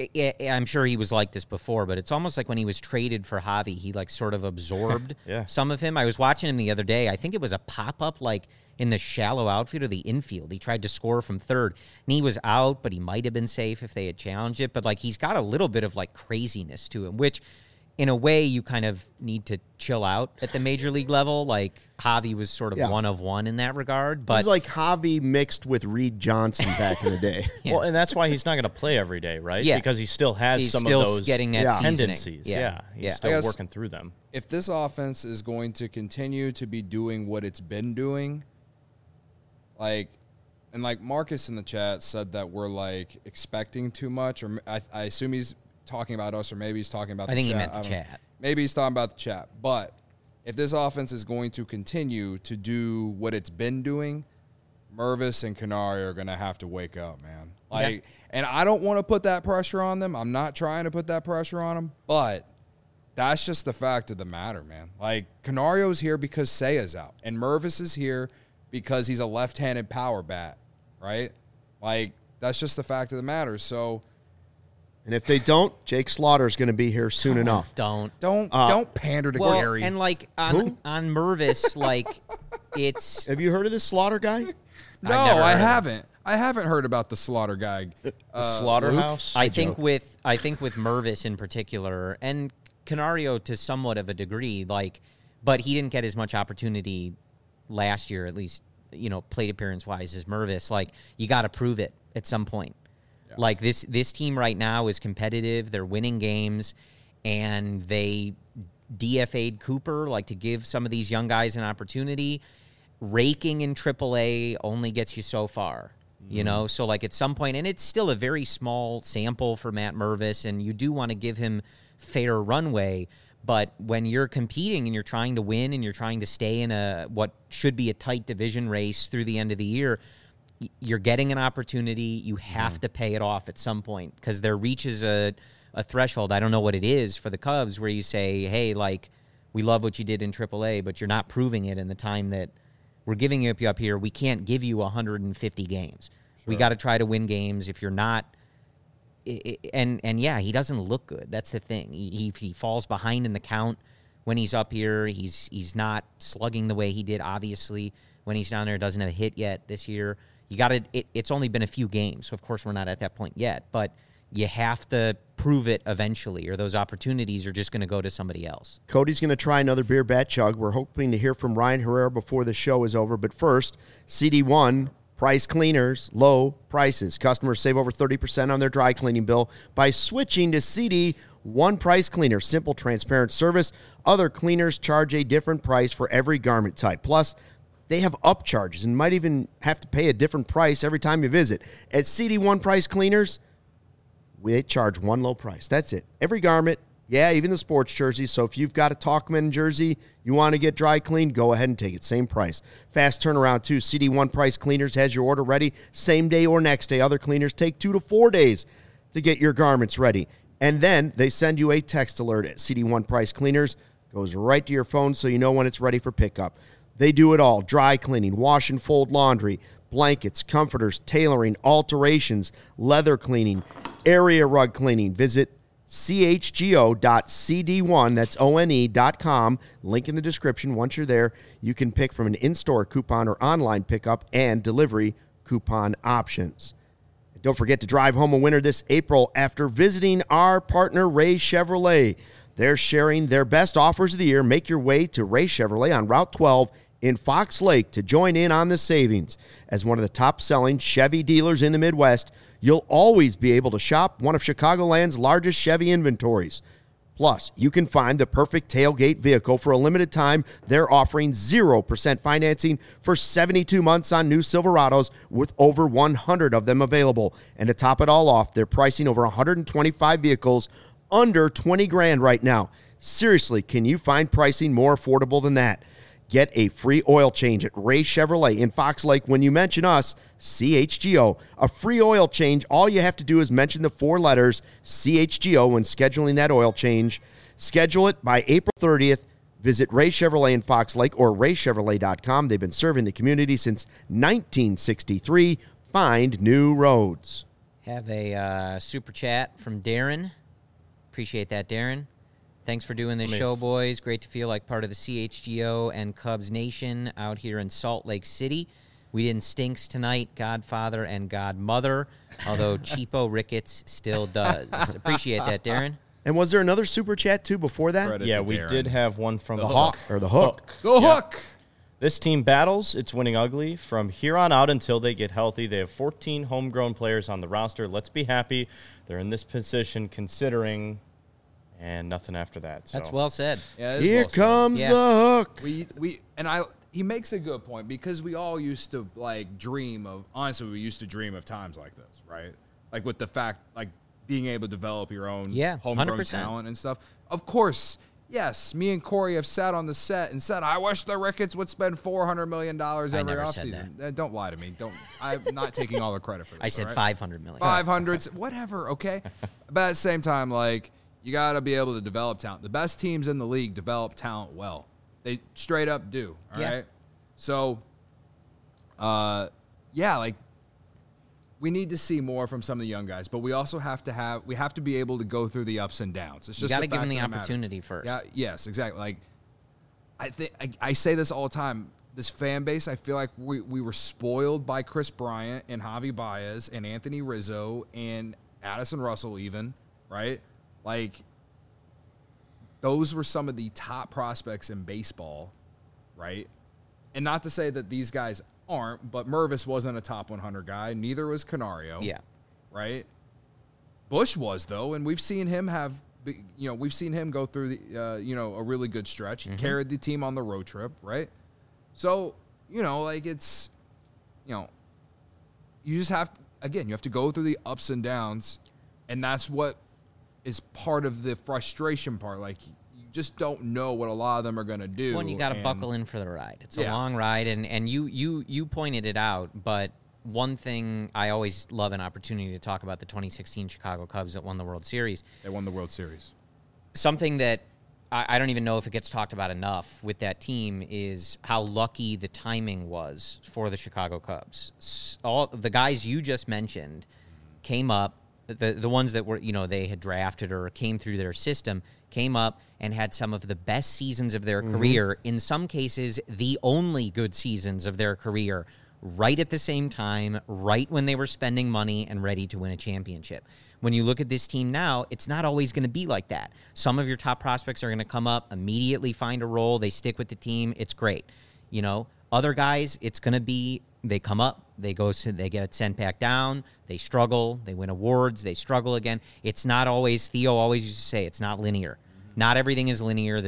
I'm sure he was like this before, but it's almost like when he was traded for Javi, he like sort of absorbed some of him. I was watching him the other day. I think it was a pop-up like in the shallow outfield or the infield. He tried to score from third, and he was out, but he might have been safe if they had challenged it. But like, he's got a little bit of like craziness to him, which in a way you kind of need to chill out at the major league level. Like, Javi was sort of one of one in that regard. But he's like Javi mixed with Reed Johnson back in the day. Well, and that's why he's not going to play every day, right? Yeah. Because he still has he's some still of those getting that seasoning. tendencies. He's still working through them. If this offense is going to continue to be doing what it's been doing, like Marcus in the chat said that we're like expecting too much, or I assume he's talking about us, or maybe he's talking about the chat. I think he meant the chat. Maybe he's talking about the chat. But if this offense is going to continue to do what it's been doing, Mervis and Canario are going to have to wake up, man. Like, and I don't want to put that pressure on them. I'm not trying to put that pressure on them, but that's just the fact of the matter, man. Like, Canario's here because Seiya's out, and Mervis is here because he's a left-handed power bat, right? Like, that's just the fact of the matter. So, and if they don't, Jake Slaughter is going to be here soon enough. Don't pander to Well, Gary. and like on Mervis, like, it's. Have you heard of this Slaughter guy? No, I haven't. I haven't heard about the Slaughter guy. The Slaughterhouse? I think with Mervis in particular, and Canario to somewhat of a degree, like, but he didn't get as much opportunity last year, at least, you know, plate appearance wise, as Mervis. Like, you got to prove it at some point. Yeah. Like, this team right now is competitive. They're winning games, and they DFA'd Cooper, like, to give some of these young guys an opportunity. Raking in AAA only gets you so far, you know? So, like, at some point, and it's still a very small sample for Matt Mervis, and you do want to give him fair runway, but when you're competing and you're trying to win and you're trying to stay in what should be a tight division race through the end of the year, you're getting an opportunity. You have to pay it off at some point, because there reaches a threshold. I don't know what it is for the Cubs, where you say, hey, like, we love what you did in AAA, but you're not proving it in the time that we're giving you up here. We can't give you 150 games. Sure. We got to try to win games. If you're not, and yeah, he doesn't look good. That's the thing. He falls behind in the count when he's up here. He's not slugging the way he did, obviously, when he's down there. Doesn't have a hit yet this year. You got to. It's only been a few games, so of course we're not at that point yet. But you have to prove it eventually, or those opportunities are just going to go to somebody else. Cody's going to try another beer bat chug. We're hoping to hear from Ryan Herrera before the show is over. But first, CD1 Price Cleaners, low prices. Customers save over 30% on their dry cleaning bill by switching to CD1 Price Cleaner. Simple, transparent service. Other cleaners charge a different price for every garment type. Plus, they have upcharges and might even have to pay a different price every time you visit. At CD1 Price Cleaners, they charge one low price. That's it. Every garment, yeah, even the sports jerseys. So if you've got a Talkman jersey you want to get dry cleaned, go ahead and take it. Same price. Fast turnaround, too. CD1 Price Cleaners has your order ready same day or next day. Other cleaners take 2 to 4 days to get your garments ready. And then they send you a text alert at CD1 Price Cleaners. Goes right to your phone so you know when it's ready for pickup. They do it all. Dry cleaning, wash and fold laundry, blankets, comforters, tailoring, alterations, leather cleaning, area rug cleaning. Visit chgo.cd1, that's one.com. Link in the description. Once you're there, you can pick from an in-store coupon or online pickup and delivery coupon options. And don't forget to drive home a winner this April after visiting our partner, Ray Chevrolet. They're sharing their best offers of the year. Make your way to Ray Chevrolet on Route 12 in Fox Lake to join in on the savings. As one of the top-selling Chevy dealers in the Midwest, you'll always be able to shop one of Chicagoland's largest Chevy inventories. Plus, you can find the perfect tailgate vehicle. For a limited time, they're offering 0% financing for 72 months on new Silverados with over 100 of them available. And to top it all off, they're pricing over 125 vehicles under $20,000 right now. Seriously, can you find pricing more affordable than that? Get a free oil change at Ray Chevrolet in Fox Lake when you mention us, CHGO. A free oil change, all you have to do is mention the 4 letters CHGO when scheduling that oil change. Schedule it by April 30th. Visit Ray Chevrolet in Fox Lake or raychevrolet.com. They've been serving the community since 1963. Find new roads. Have a super chat from Darren. Appreciate that, Darren. Thanks for doing this show, boys. Great to feel like part of the CHGO and Cubs Nation out here in Salt Lake City. We didn't stinks tonight, Godfather and Godmother, although Cheapo Ricketts still does. Appreciate that, Darren. And was there another super chat, too, before that? Credit to we Darren. Did have one from the Hawk. Or the Hook. The Hook! This team battles. It's winning ugly. From here on out until they get healthy, they have 14 homegrown players on the roster. Let's be happy they're in this position considering... And nothing after that. So. That's well said. Yeah, here comes the Hook. He makes a good point because we all used to dream of. Honestly, we used to dream of times like this, right? Like with the fact, being able to develop your own homegrown 100%. talent and stuff. Of course, yes. Me and Corey have sat on the set and said, "I wish the Ricketts would spend $400 million every offseason." Don't lie to me. I'm not taking all the credit for this. I said right? $500 million. 500, whatever. Okay, but at the same time, you got to be able to develop talent. The best teams in the league develop talent well. They straight up do, all right? So, we need to see more from some of the young guys, but we also have to be able to go through the ups and downs. It's just you got to give them the opportunity first. Yeah, yes, exactly. I say this all the time. This fan base, I feel like we were spoiled by Chris Bryant and Javi Baez and Anthony Rizzo and Addison Russell even, right? Those were some of the top prospects in baseball, right? And not to say that these guys aren't, but Mervis wasn't a top 100 guy. Neither was Canario. Yeah. Right? Bush was, though, and we've seen him go through a really good stretch. He carried the team on the road trip, right? So, it's, you just have to, again, you have to go through the ups and downs, and that's what is part of the frustration part. You just don't know what a lot of them are going to do. Well, you got to buckle in for the ride. It's a long ride, and you pointed it out, but one thing I always love an opportunity to talk about the 2016 Chicago Cubs that won the World Series. They won the World Series. Something that I don't even know if it gets talked about enough with that team is how lucky the timing was for the Chicago Cubs. All the guys you just mentioned came up, the ones that were, they had drafted or came through their system, came up and had some of the best seasons of their career, in some cases the only good seasons of their career, right at the same time, right when they were spending money and ready to win a championship. When you look at this team now, it's not always going to be like that. Some of your top prospects are going to come up, immediately find a role, they stick with the team, it's great. Other guys, it's going to be they come up, they get sent back down, they struggle, they win awards, they struggle again. It's not always, Theo always used to say, it's not linear. Not everything is linear. The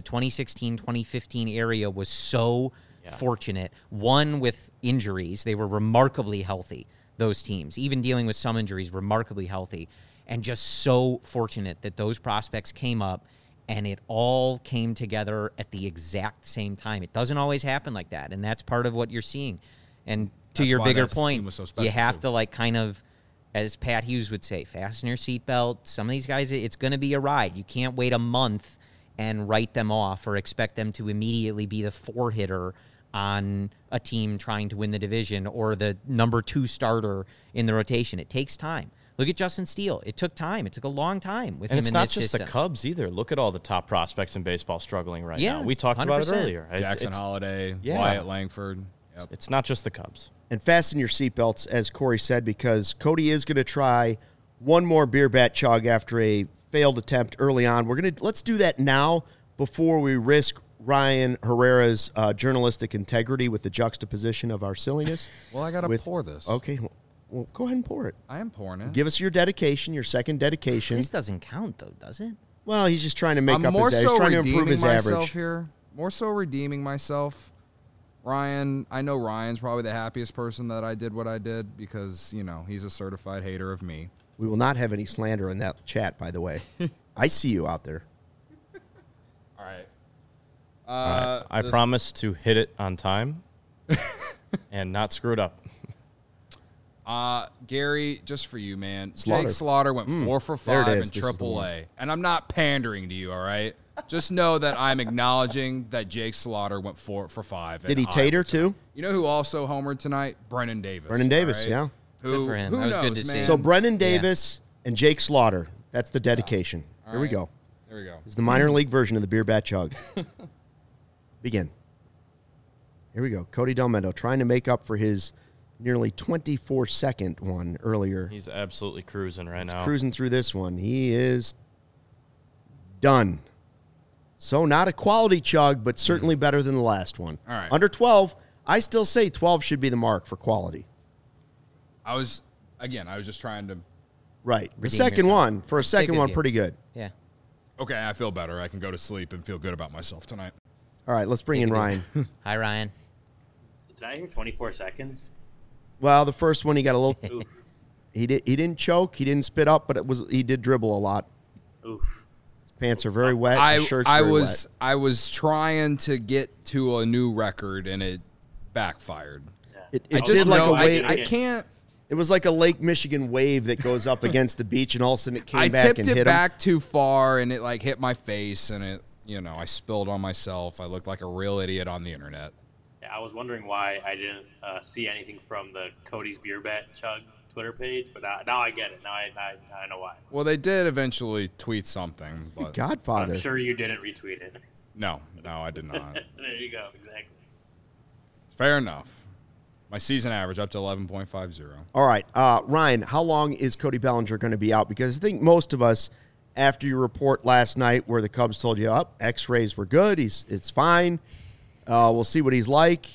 2016-2015 area was so fortunate. One, with injuries. They were remarkably healthy, those teams. Even dealing with some injuries, remarkably healthy. And just so fortunate that those prospects came up and it all came together at the exact same time. It doesn't always happen like that, and that's part of what you're seeing. And to your bigger point, you have to, kind of, as Pat Hughes would say, fasten your seatbelt. Some of these guys, it's going to be a ride. You can't wait a month and write them off or expect them to immediately be the 4-hitter on a team trying to win the division or the number 2 starter in the rotation. It takes time. Look at Justin Steele. It took time. It took a long time with him in this system. And it's not just the Cubs either. Look at all the top prospects in baseball struggling right now. We talked 100%. About it earlier. Jackson Holiday, Wyatt Langford. Yep. It's not just the Cubs. And fasten your seatbelts, as Corey said, because Cody is going to try one more beer bat chug after a failed attempt early on. Let's do that now before we risk Ryan Herrera's journalistic integrity with the juxtaposition of our silliness. Well, I got to pour this. Okay, well, go ahead and pour it. I am pouring it. Give us your dedication, your second dedication. This doesn't count, though, does it? Well, he's just trying to make up his average. He's trying to improve his average here. More so redeeming myself. Ryan, I know Ryan's probably the happiest person that I did what I did because, he's a certified hater of me. We will not have any slander in that chat, by the way. I see you out there. All right. All right. I promise to hit it on time and not screw it up. Gary, just for you, man. Slaughter. Jake Slaughter went 4 for 5 in AAA. And I'm not pandering to you, all right? Just know that I'm acknowledging that Jake Slaughter went 4 for 5. Did he tater, too? You know who also homered tonight? Brennan Davis. Brennan Davis, right? yeah. Good for him. That was good to see. So Brennan Davis and Jake Slaughter. That's the dedication. Here we go. There we go. It's the minor league version of the beer bat chug. Begin. Here we go. Cody Delmendo trying to make up for his nearly 24-second one earlier. He's absolutely cruising right now. Cruising through this one. He is done. So not a quality chug, but certainly better than the last one. All right. Under 12, I still say 12 should be the mark for quality. I was just trying to. Right. The Redeem second yourself. one, for a second one, pretty good. Yeah. Okay, I feel better. I can go to sleep and feel good about myself tonight. All right, let's bring in Ryan. Hi, Ryan. Did I hear 24 seconds? Well, the first one he got a little. Oof. He didn't choke. He didn't spit up, but he did dribble a lot. Oof. His pants are very wet. His shirt's I very was wet. I was trying to get to a new record and it backfired. Yeah. It did like a wave. I can't. It was like a Lake Michigan wave that goes up against the beach, and all of a sudden it came back and hit him. I tipped it back too far, and it hit my face, and it I spilled on myself. I looked like a real idiot on the internet. Yeah, I was wondering why I didn't see anything from the Cody's Beer Bet Chug Twitter page, but now I get it. Now I know why. Well, they did eventually tweet something, but Godfather. I'm sure you didn't retweet it. no, I did not. There you go. Exactly. Fair enough. My season average up to 11.50. All right, Ryan, how long is Cody Bellinger going to be out? Because I think most of us, after your report last night where the Cubs told you, X-rays were good, it's fine, we'll see what he's like.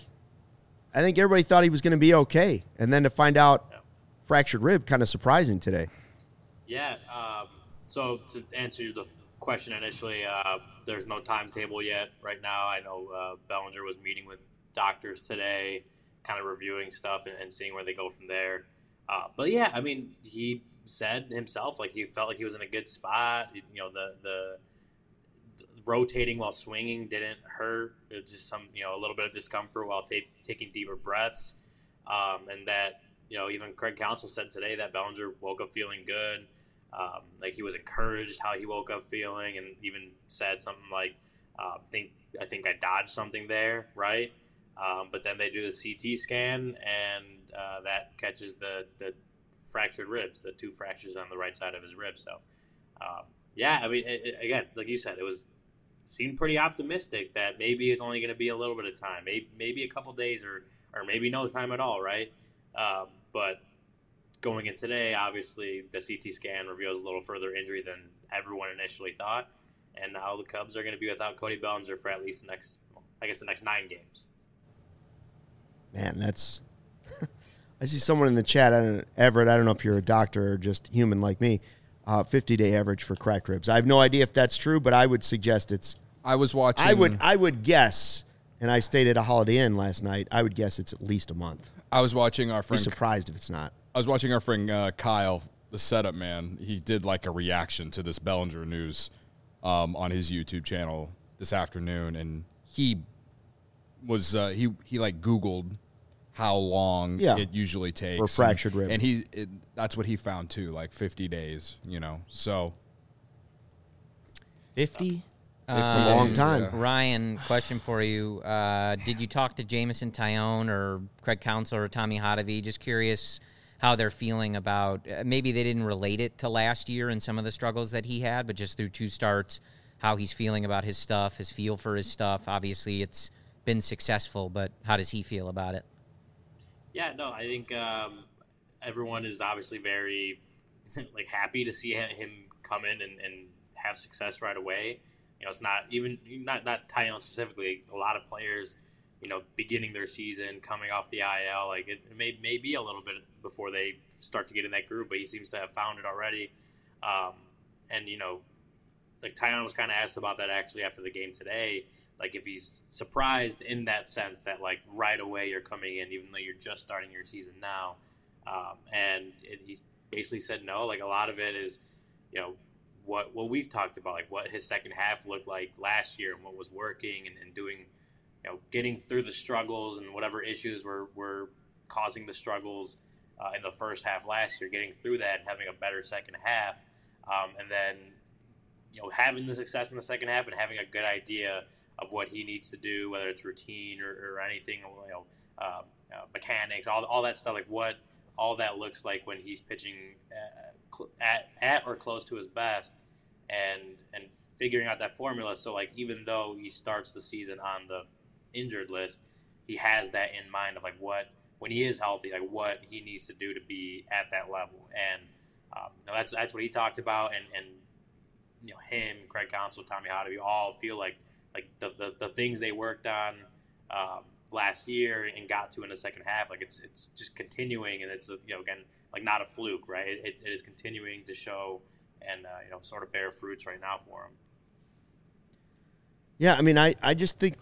I think everybody thought he was going to be okay. And then to find out fractured rib, kind of surprising today. Yeah. So to answer the question initially, there's no timetable yet right now. I know Bellinger was meeting with doctors today, kind of reviewing stuff and seeing where they go from there. But yeah, I mean, he said himself, he felt like he was in a good spot. The rotating while swinging didn't hurt. It was just some, a little bit of discomfort while taking deeper breaths. And that, even Craig Counsell said today that Bellinger woke up feeling good. He was encouraged how he woke up feeling, and even said something like, I think I dodged something there, right? But then they do the CT scan, and that catches the fractured ribs, the 2 fractures on the right side of his ribs. So, yeah, I mean, again, like you said, seemed pretty optimistic that maybe it's only going to be a little bit of time, maybe a couple days or maybe no time at all, right? But going in today, obviously, the CT scan reveals a little further injury than everyone initially thought. And now the Cubs are going to be without Cody Bellinger for at least the next 9 games. Man, that's... I see someone in the chat, Everett, I don't know if you're a doctor or just human like me, 50-day average for cracked ribs. I have no idea if that's true, but I would suggest it's... I was watching... I would guess, and I stayed at a Holiday Inn last night, I would guess it's at least a month. I was watching our friend... Be surprised if it's not. I was watching our friend Kyle, the setup man. He did like a reaction to this Bellinger news on his YouTube channel this afternoon, and he was he like Googled how long it usually takes for fractured rib, and that's what he found too, like 50 days. So 50. It's a long time. Yeah. Ryan, question for you. Did you talk to Jameson Taillon or Craig Counsell or Tommy Hotovy? Just curious how they're feeling about, maybe they didn't relate it to last year and some of the struggles that he had, but just through 2 starts, how he's feeling about his stuff, his feel for his stuff. Obviously, it's been successful, but how does he feel about it? Yeah, no, I think everyone is obviously very happy to see him come in and have success right away. It's not even not Taillon specifically. A lot of players, beginning their season, coming off the IL, it may be a little bit before they start to get in that groove, but he seems to have found it already. And Taillon was kind of asked about that actually after the game today, if he's surprised in that sense that right away you're coming in, even though you're just starting your season now. And he basically said no. A lot of it is, what we've talked about, what his second half looked like last year and what was working and doing, getting through the struggles and whatever issues were causing the struggles in the first half last year, getting through that and having a better second half. And then, having the success in the second half and having a good idea of what he needs to do, whether it's routine or anything, mechanics, all that stuff, what all that looks like when he's pitching at or close to his best, and figuring out that formula. So even though he starts the season on the injured list, he has that in mind of what, when he is healthy, what he needs to do to be at that level. And that's what he talked about. And him, Craig Counsell, Tommy Hotovy all feel like the things they worked on last year and got to in the second half, it's just continuing, and it's again not a fluke, right? It is continuing to show and sort of bear fruits right now for him. Yeah, I mean, I just think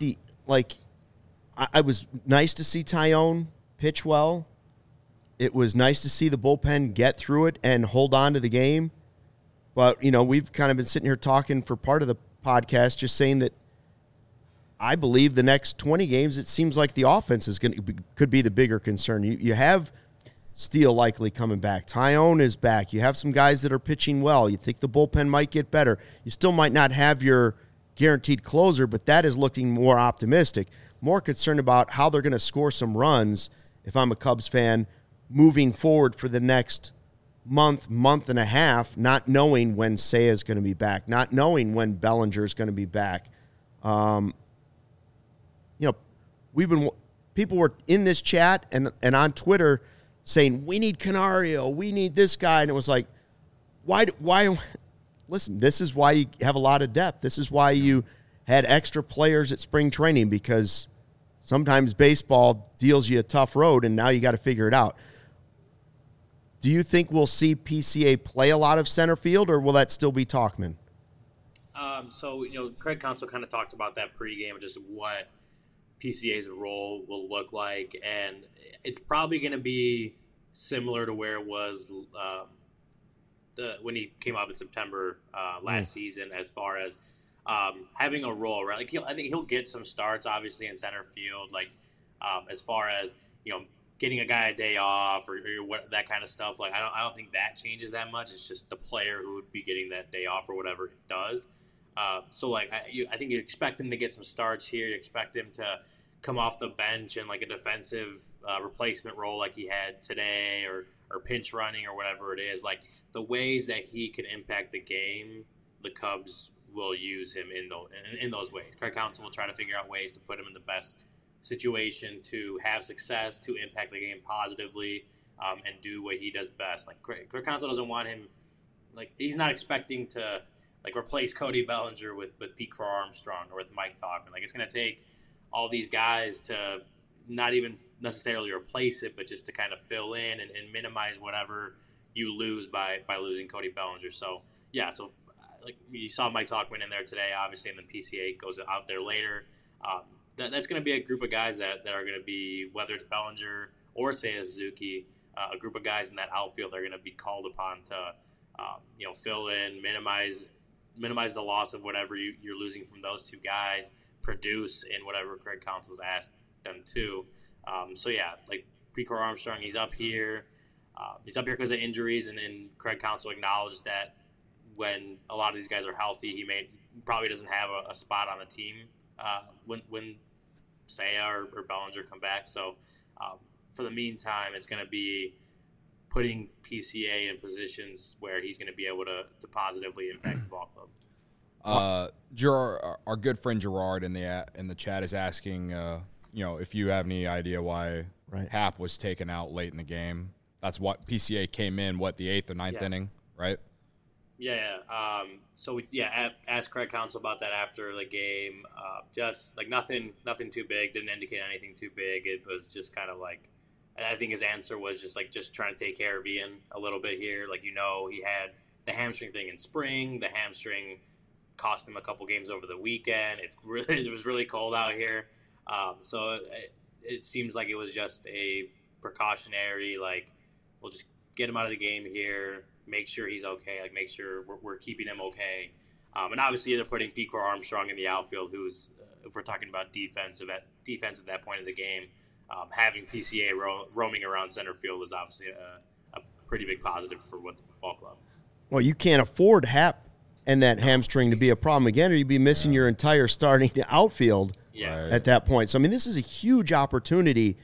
I was nice to see Taillon pitch well. It was nice to see the bullpen get through it and hold on to the game. But, we've kind of been sitting here talking for part of the podcast, just saying that I believe the next 20 games, it seems like the offense could be the bigger concern. You have Steele likely coming back. Taillon is back. You have some guys that are pitching well. You think the bullpen might get better. You still might not have your guaranteed closer, but that is looking more optimistic. More concerned about how they're going to score some runs, if I'm a Cubs fan, moving forward for the next month and a half, not knowing when Seiya is going to be back, not knowing when Bellinger is going to be back. People were in this chat and on Twitter saying, we need Canario, we need this guy. And it was like, why, listen, this is why you have a lot of depth. This is why you had extra players at spring training, because sometimes baseball deals you a tough road and now you got to figure it out. Do you think we'll see PCA play a lot of center field, or will that still be Tauchman? So, Craig Counsell kind of talked about that pregame, just what PCA's role will look like, and it's probably going to be similar to where it was when he came up in September last season, as far as having a role, right? I think he'll get some starts, obviously, in center field, as far as getting a guy a day off or what, that kind of stuff. I don't think that changes that much. It's just the player who would be getting that day off or whatever it does. So like I think you expect him to get some starts here. You expect him to come off the bench in like a defensive replacement role like he had today, or pinch running or whatever it is. Like the ways that he can impact the game, the Cubs will use him in those ways. Craig Counsell will try to figure out ways to put him in the best situation to have success, to impact the game positively, and do what he does best. Like Craig Counsell doesn't want him, like he's not expecting to like replace Cody Bellinger with Pete Crow Armstrong or with Mike Tauchman. Like it's going to take all these guys to not even necessarily replace it, but just to kind of fill in and minimize whatever you lose by losing Cody Bellinger. So yeah, so like you saw Mike Tauchman in there today, obviously, and then PCA goes out there later. That's going to be a group of guys that are going to be, whether it's Bellinger or Seiya Suzuki, a group of guys in that outfield that are going to be called upon to fill in, minimize the loss of whatever you're losing from those two guys, produce in whatever Craig Counsell's asked them to. So yeah, like Pete Crow Armstrong, he's up here. He's up here because of injuries, and Craig Counsell acknowledged that when a lot of these guys are healthy, he probably doesn't have a spot on the team when Seiya or Bellinger come back. So for the meantime, it's going to be putting PCA in positions where he's going to be able to positively impact the ball club. Gerard, our good friend Gerard in the chat is asking, if you have any idea why Happ was taken out late in the game. That's what PCA came in, the 8th or 9th inning, right? Yeah. So we asked Craig Counsell about that after the game. Just like nothing too big. Didn't indicate anything too big. It was just kind of like, I think his answer was just trying to take care of Ian a little bit here. Like, he had the hamstring thing in spring. The hamstring cost him a couple games over the weekend. It was really cold out here. So it seems like it was just a precautionary, like, we'll just get him out of the game here, make sure he's okay, like make sure we're keeping him okay. And obviously they're putting Pete Crow Armstrong in the outfield, who's, if we're talking about defense at that point of the game, having PCA roaming around center field is obviously a pretty big positive for what the ball club. Well, you can't afford Happ and that hamstring to be a problem again, or you'd be missing your entire starting outfield at that point. So, I mean, this is a huge opportunity,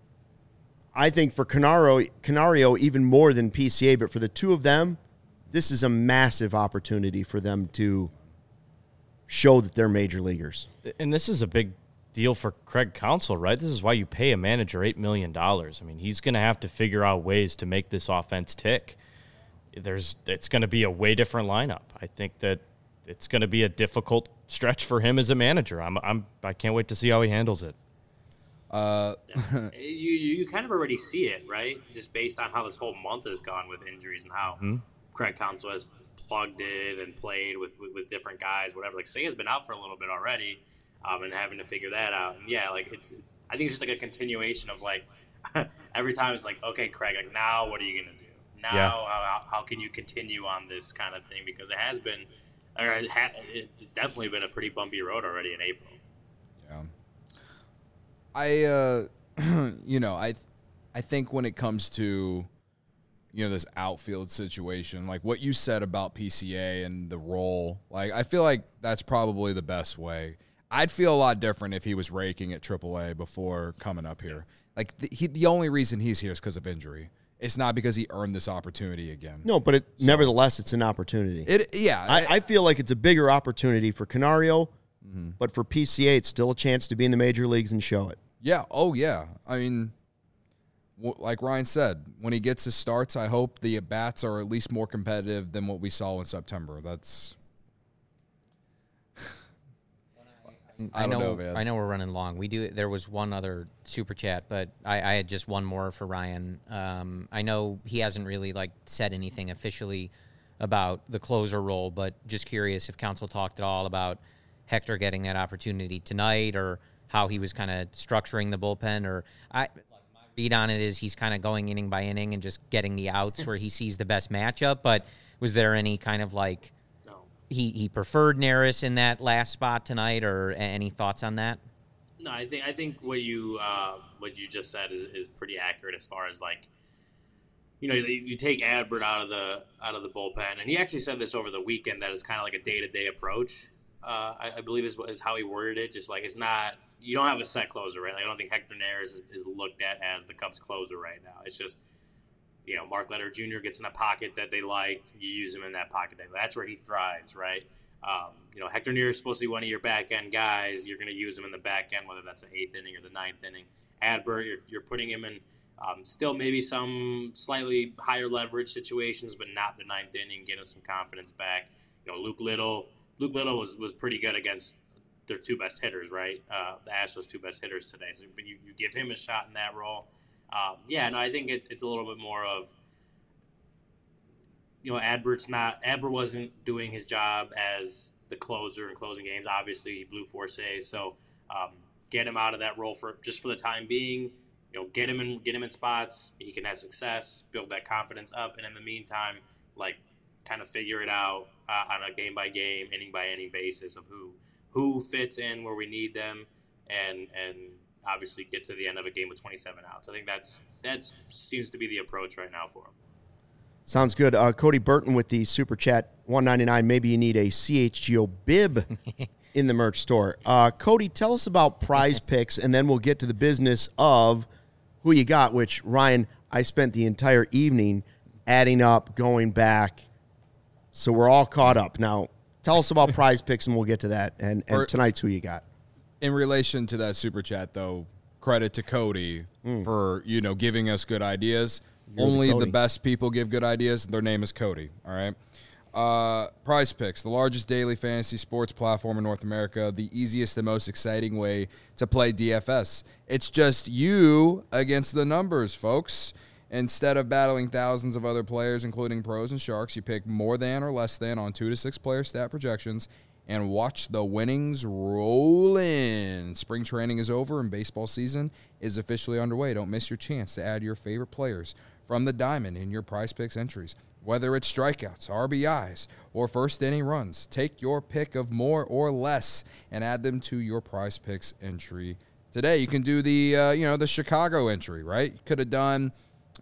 I think, for Canario even more than PCA, but for the two of them, this is a massive opportunity for them to show that they're major leaguers. And this is a big deal for Craig Counsell, right? This is why you pay a manager $8 million. I mean, he's going to have to figure out ways to make this offense tick. It's going to be a way different lineup. I think that it's going to be a difficult stretch for him as a manager. I can't wait to see how he handles it. You kind of already see it, right? Just based on how this whole month has gone with injuries and how Craig Counsell has plugged in and played with different guys, whatever. Like, Seiya's been out for a little bit already, and having to figure that out. And yeah, like I think it's just like a continuation of like every time it's like, okay, Craig, like now what are you gonna do? Now how can you continue on this kind of thing? Because it has been, or it's definitely been a pretty bumpy road already in April. Yeah. I think when it comes to, this outfield situation, like what you said about PCA and the role, like I feel like that's probably the best way. I'd feel a lot different if he was raking at AAA before coming up here. Like the only reason he's here is because of injury. It's not because he earned this opportunity again. No, but nevertheless, it's an opportunity. I feel like it's a bigger opportunity for Canario, but for PCA, it's still a chance to be in the major leagues and show it. Yeah. Oh, yeah. I mean, like Ryan said, when he gets his starts, I hope the at-bats are at least more competitive than what we saw in September. That's... I know we're running long. There was one other super chat, but I had just one more for Ryan. I know he hasn't really said anything officially about the closer role, but just curious if Counsell talked at all about Hector getting that opportunity tonight, or how he was kind of structuring the bullpen. Or my read on it is he's kind of going inning by inning and just getting the outs where he sees the best matchup. But was there any kind of he preferred Neris in that last spot tonight, or any thoughts on that? No, I think what you just said is pretty accurate as far as you take Adbert out of the bullpen, and he actually said this over the weekend that it's kind of like a day-to-day approach. I believe is how he worded it. Just like it's not, you don't have a set closer, right? Like, I don't think Hector Neris is looked at as the Cubs closer right now. It's just, Mark Leonard Jr. gets in a pocket that they liked. You use him in that pocket. That's where he thrives, right? Hector Neris is supposed to be one of your back end guys. You're going to use him in the back end, whether that's the 8th inning or the 9th inning. Adbert, you're putting him in still maybe some slightly higher leverage situations, but not the 9th inning. Get him some confidence back. Luke Little was pretty good against their 2 best hitters, right? The Astros' 2 best hitters today. So, but you give him a shot in that role. I think it's a little bit more of, Adbert wasn't doing his job as the closer in closing games. Obviously, he blew 4 saves, so get him out of that role for the time being. Get him in spots he can have success, build that confidence up, and in the meantime, kind of figure it out on a game by game, inning by inning basis of who fits in where we need them, and obviously get to the end of a game with 27 outs. I think that seems to be the approach right now for him. Sounds good. Cody Burton with the Super Chat, $1.99. Maybe you need a CHGO bib in the merch store. Cody, tell us about Prize Picks, and then we'll get to the business of who you got, which, Ryan, I spent the entire evening adding up, going back, so we're all caught up. Now, tell us about Prize Picks, and we'll get to that, and tonight's who you got. In relation to that Super Chat, though, credit to Cody for, giving us good ideas. Only the best people give good ideas. Their name is Cody, all right? Prize Picks, the largest daily fantasy sports platform in North America, the easiest and most exciting way to play DFS. It's just you against the numbers, folks. Instead of battling thousands of other players, including pros and sharks, you pick more than or less than on 2 to 6 player stat projections and watch the winnings roll in. Spring training is over and baseball season is officially underway. Don't miss your chance to add your favorite players from the diamond in your Prize Picks entries. Whether it's strikeouts, RBIs, or first inning runs, take your pick of more or less and add them to your Prize Picks entry today. You can do the Chicago entry, right? You could have done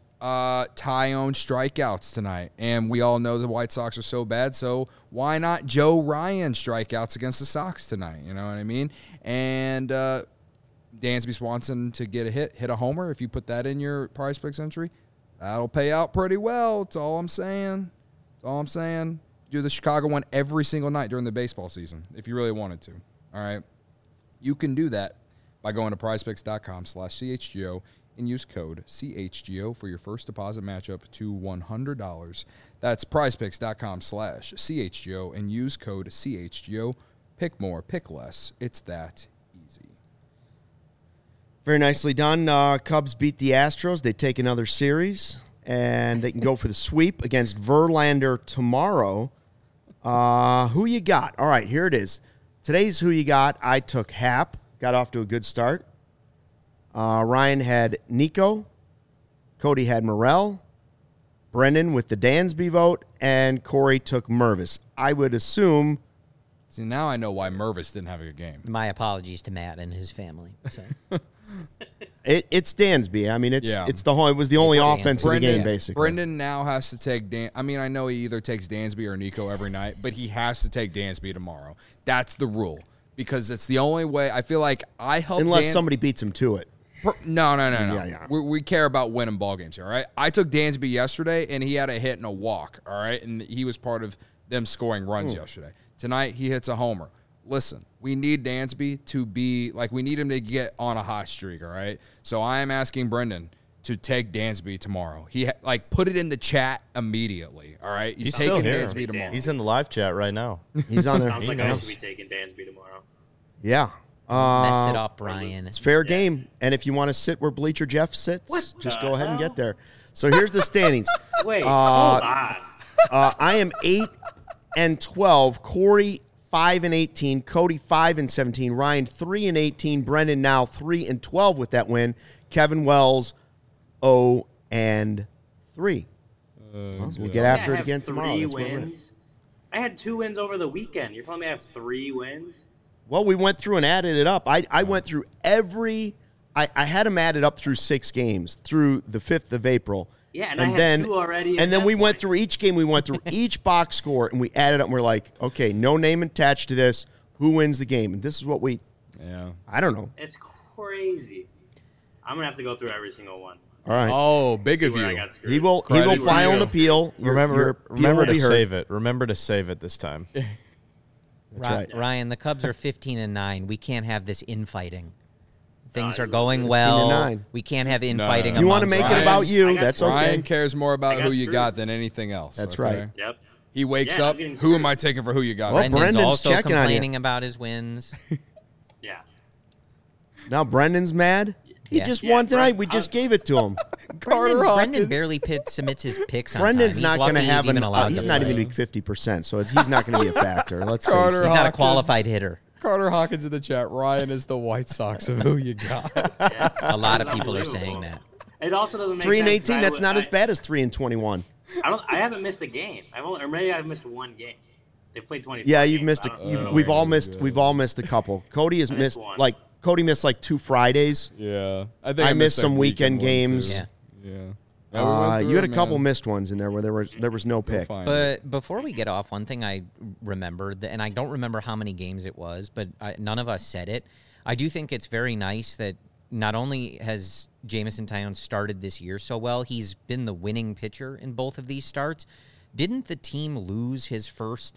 Tyone strikeouts tonight, and we all know the White Sox are so bad, so why not Joe Ryan strikeouts against the Sox tonight? You know what I mean? And Dansby Swanson to get a hit a homer. If you put that in your Prize Picks entry, that'll pay out pretty well. That's all I'm saying. Do the Chicago one every single night during the baseball season if you really wanted to. All right. You can do that by going to prizepicks.com/CHGO and use code CHGO for your first deposit matchup to $100. That's prizepicks.com/CHGO and use code CHGO. Pick more, pick less. It's that easy. Very nicely done. Cubs beat the Astros. They take another series, and they can go for the sweep against Verlander tomorrow. Who you got? All right, here it is. Today's who you got. I took Hap. Got off to a good start. Ryan had Nico. Cody had Morel. Brendan with the Dansby vote. And Corey took Mervis. I would assume... See, now I know why Mervis didn't have a good game. My apologies to Matt and his family. So. It's Dansby. I mean, it's the whole. It was the only offense of the game, basically. Brendan now has to take I mean, I know he either takes Dansby or Nico every night, but he has to take Dansby tomorrow. That's the rule because it's the only way. I feel like I help. Unless somebody beats him to it. No. Yeah. We care about winning ball games here, all right? I took Dansby yesterday, and he had a hit and a walk, all right? And he was part of them scoring runs yesterday. Tonight, he hits a homer. Listen, we need Dansby to be, we need him to get on a hot streak, all right? So I am asking Brendan to take Dansby tomorrow. He, put it in the chat immediately, all right? He's taking Dansby tomorrow. He's in the live chat right now. He's on there. Sounds like I should be taking Dansby tomorrow. Yeah. Mess it up, Ryan. It's fair game. And if you want to sit where Bleacher Jeff sits, just go ahead and get there. So here's the standings. Wait, hold on. I am 8-12. Corey 5-18. Cody 5-17. Ryan 3-18. Brendan now 3-12 with that win. Kevin Wells 0-3. We'll get after it again tomorrow. Three wins. I had 2 wins over the weekend. You're telling me I have 3 wins? Well, we went through and added it up. I went through I had them added up through 6 games through the 5th of April. Yeah, and I had 2 already. And then we went through each game. We went through each box score, and we added up. And we're like, okay, no name attached to this. who wins the game. And this is what I don't know. It's crazy. I'm gonna have to go through every single one. All right. Oh, big See of where I you. got screwed. He will Credit to file an you. appeal. Remember appeal will to be heard. save it. Remember to save it this time. That's right. Ryan, the Cubs are 15-9. We can't have this infighting. Things are it's going 15-9. well. We can't have infighting. If you want to amongst make it us. about you, I got that's okay. Ryan cares more about I got who you screwed. got than anything else. That's okay? right. Yep. He wakes Yeah, I'm up. getting Who am screwed. I taking for who you got? Well, Brendan's Brendan's also checking on you. complaining about his wins. Yeah. Now Brendan's mad. He Yeah. just Yeah, won tonight. Brent- We just gave it to him. Brendan barely submits his picks on Brendan's time. not going to have even allowed. he's to not play. even going to be 50%, so he's not going to be a factor. Let's face Carter it. He's not a Hawkins. qualified hitter. Carter Hawkins in the chat. Ryan is the White Sox of who you got. Yeah. A lot of It's people are unbelievable. saying that. It also doesn't make 3 and sense. 18. That's not as bad as 3 and 21. I haven't missed a game. Or maybe I've missed one game. They played 20. Yeah, you've missed. I don't know. We've all missed a couple. Cody has missed missed one. Cody missed like 2 Fridays. Yeah, I I missed some weekend one, games. too. Yeah. Yeah. Yeah, we went You through had a it, couple man. missed ones in there where there was no You'll pick. find it. But before we get off, one thing I remembered, and I don't remember how many games it was, but none of us said it. I do think it's very nice that not only has Jameson Taillon started this year so well, he's been the winning pitcher in both of these starts. Didn't the team lose his first,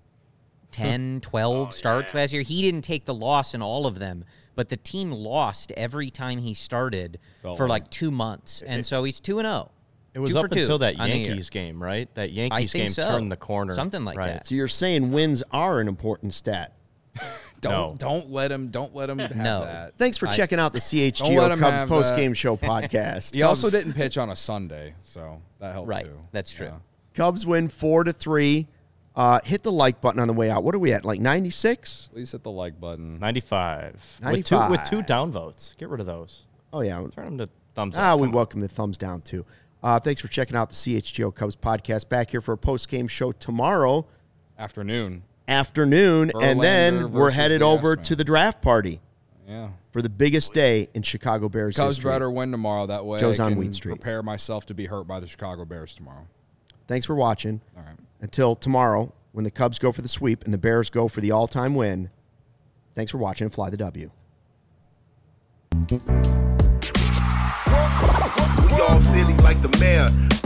10, 12 starts last year? He didn't take the loss in all of them, but the team lost every time he started for 2 months. And so he's 2-0. It was 2 for up 2 until that on the year. Yankees game, right? That I Yankees think game so. turned the corner. Something like right. that. So you're saying wins are an important stat. Don't let him have No. that. Thanks for checking out the Don't let CHGO him Cubs have post that. game show podcast. He also didn't pitch on a Sunday, so that helped Right. too. That's true. Yeah. Cubs win 4-3. Hit the like button on the way out. What are we at? 96? Please hit the like button. 95. 95. With two downvotes. Get rid of those. Oh yeah. Turn them to thumbs up. We Come on. welcome the thumbs down too. Thanks for checking out the CHGO Cubs podcast. Back here for a post game show tomorrow Afternoon. afternoon, and then Verlander we're versus headed the over S-Man. to the draft party Yeah. for the biggest day in Chicago Bears Cubs history. better win tomorrow. That way Joe's I on can Wheat Street. prepare myself to be hurt by the Chicago Bears tomorrow. Thanks for watching. All right. Until tomorrow, when the Cubs go for the sweep and the Bears go for the all-time win. Thanks for watching and fly the W. We all silly like the mayor.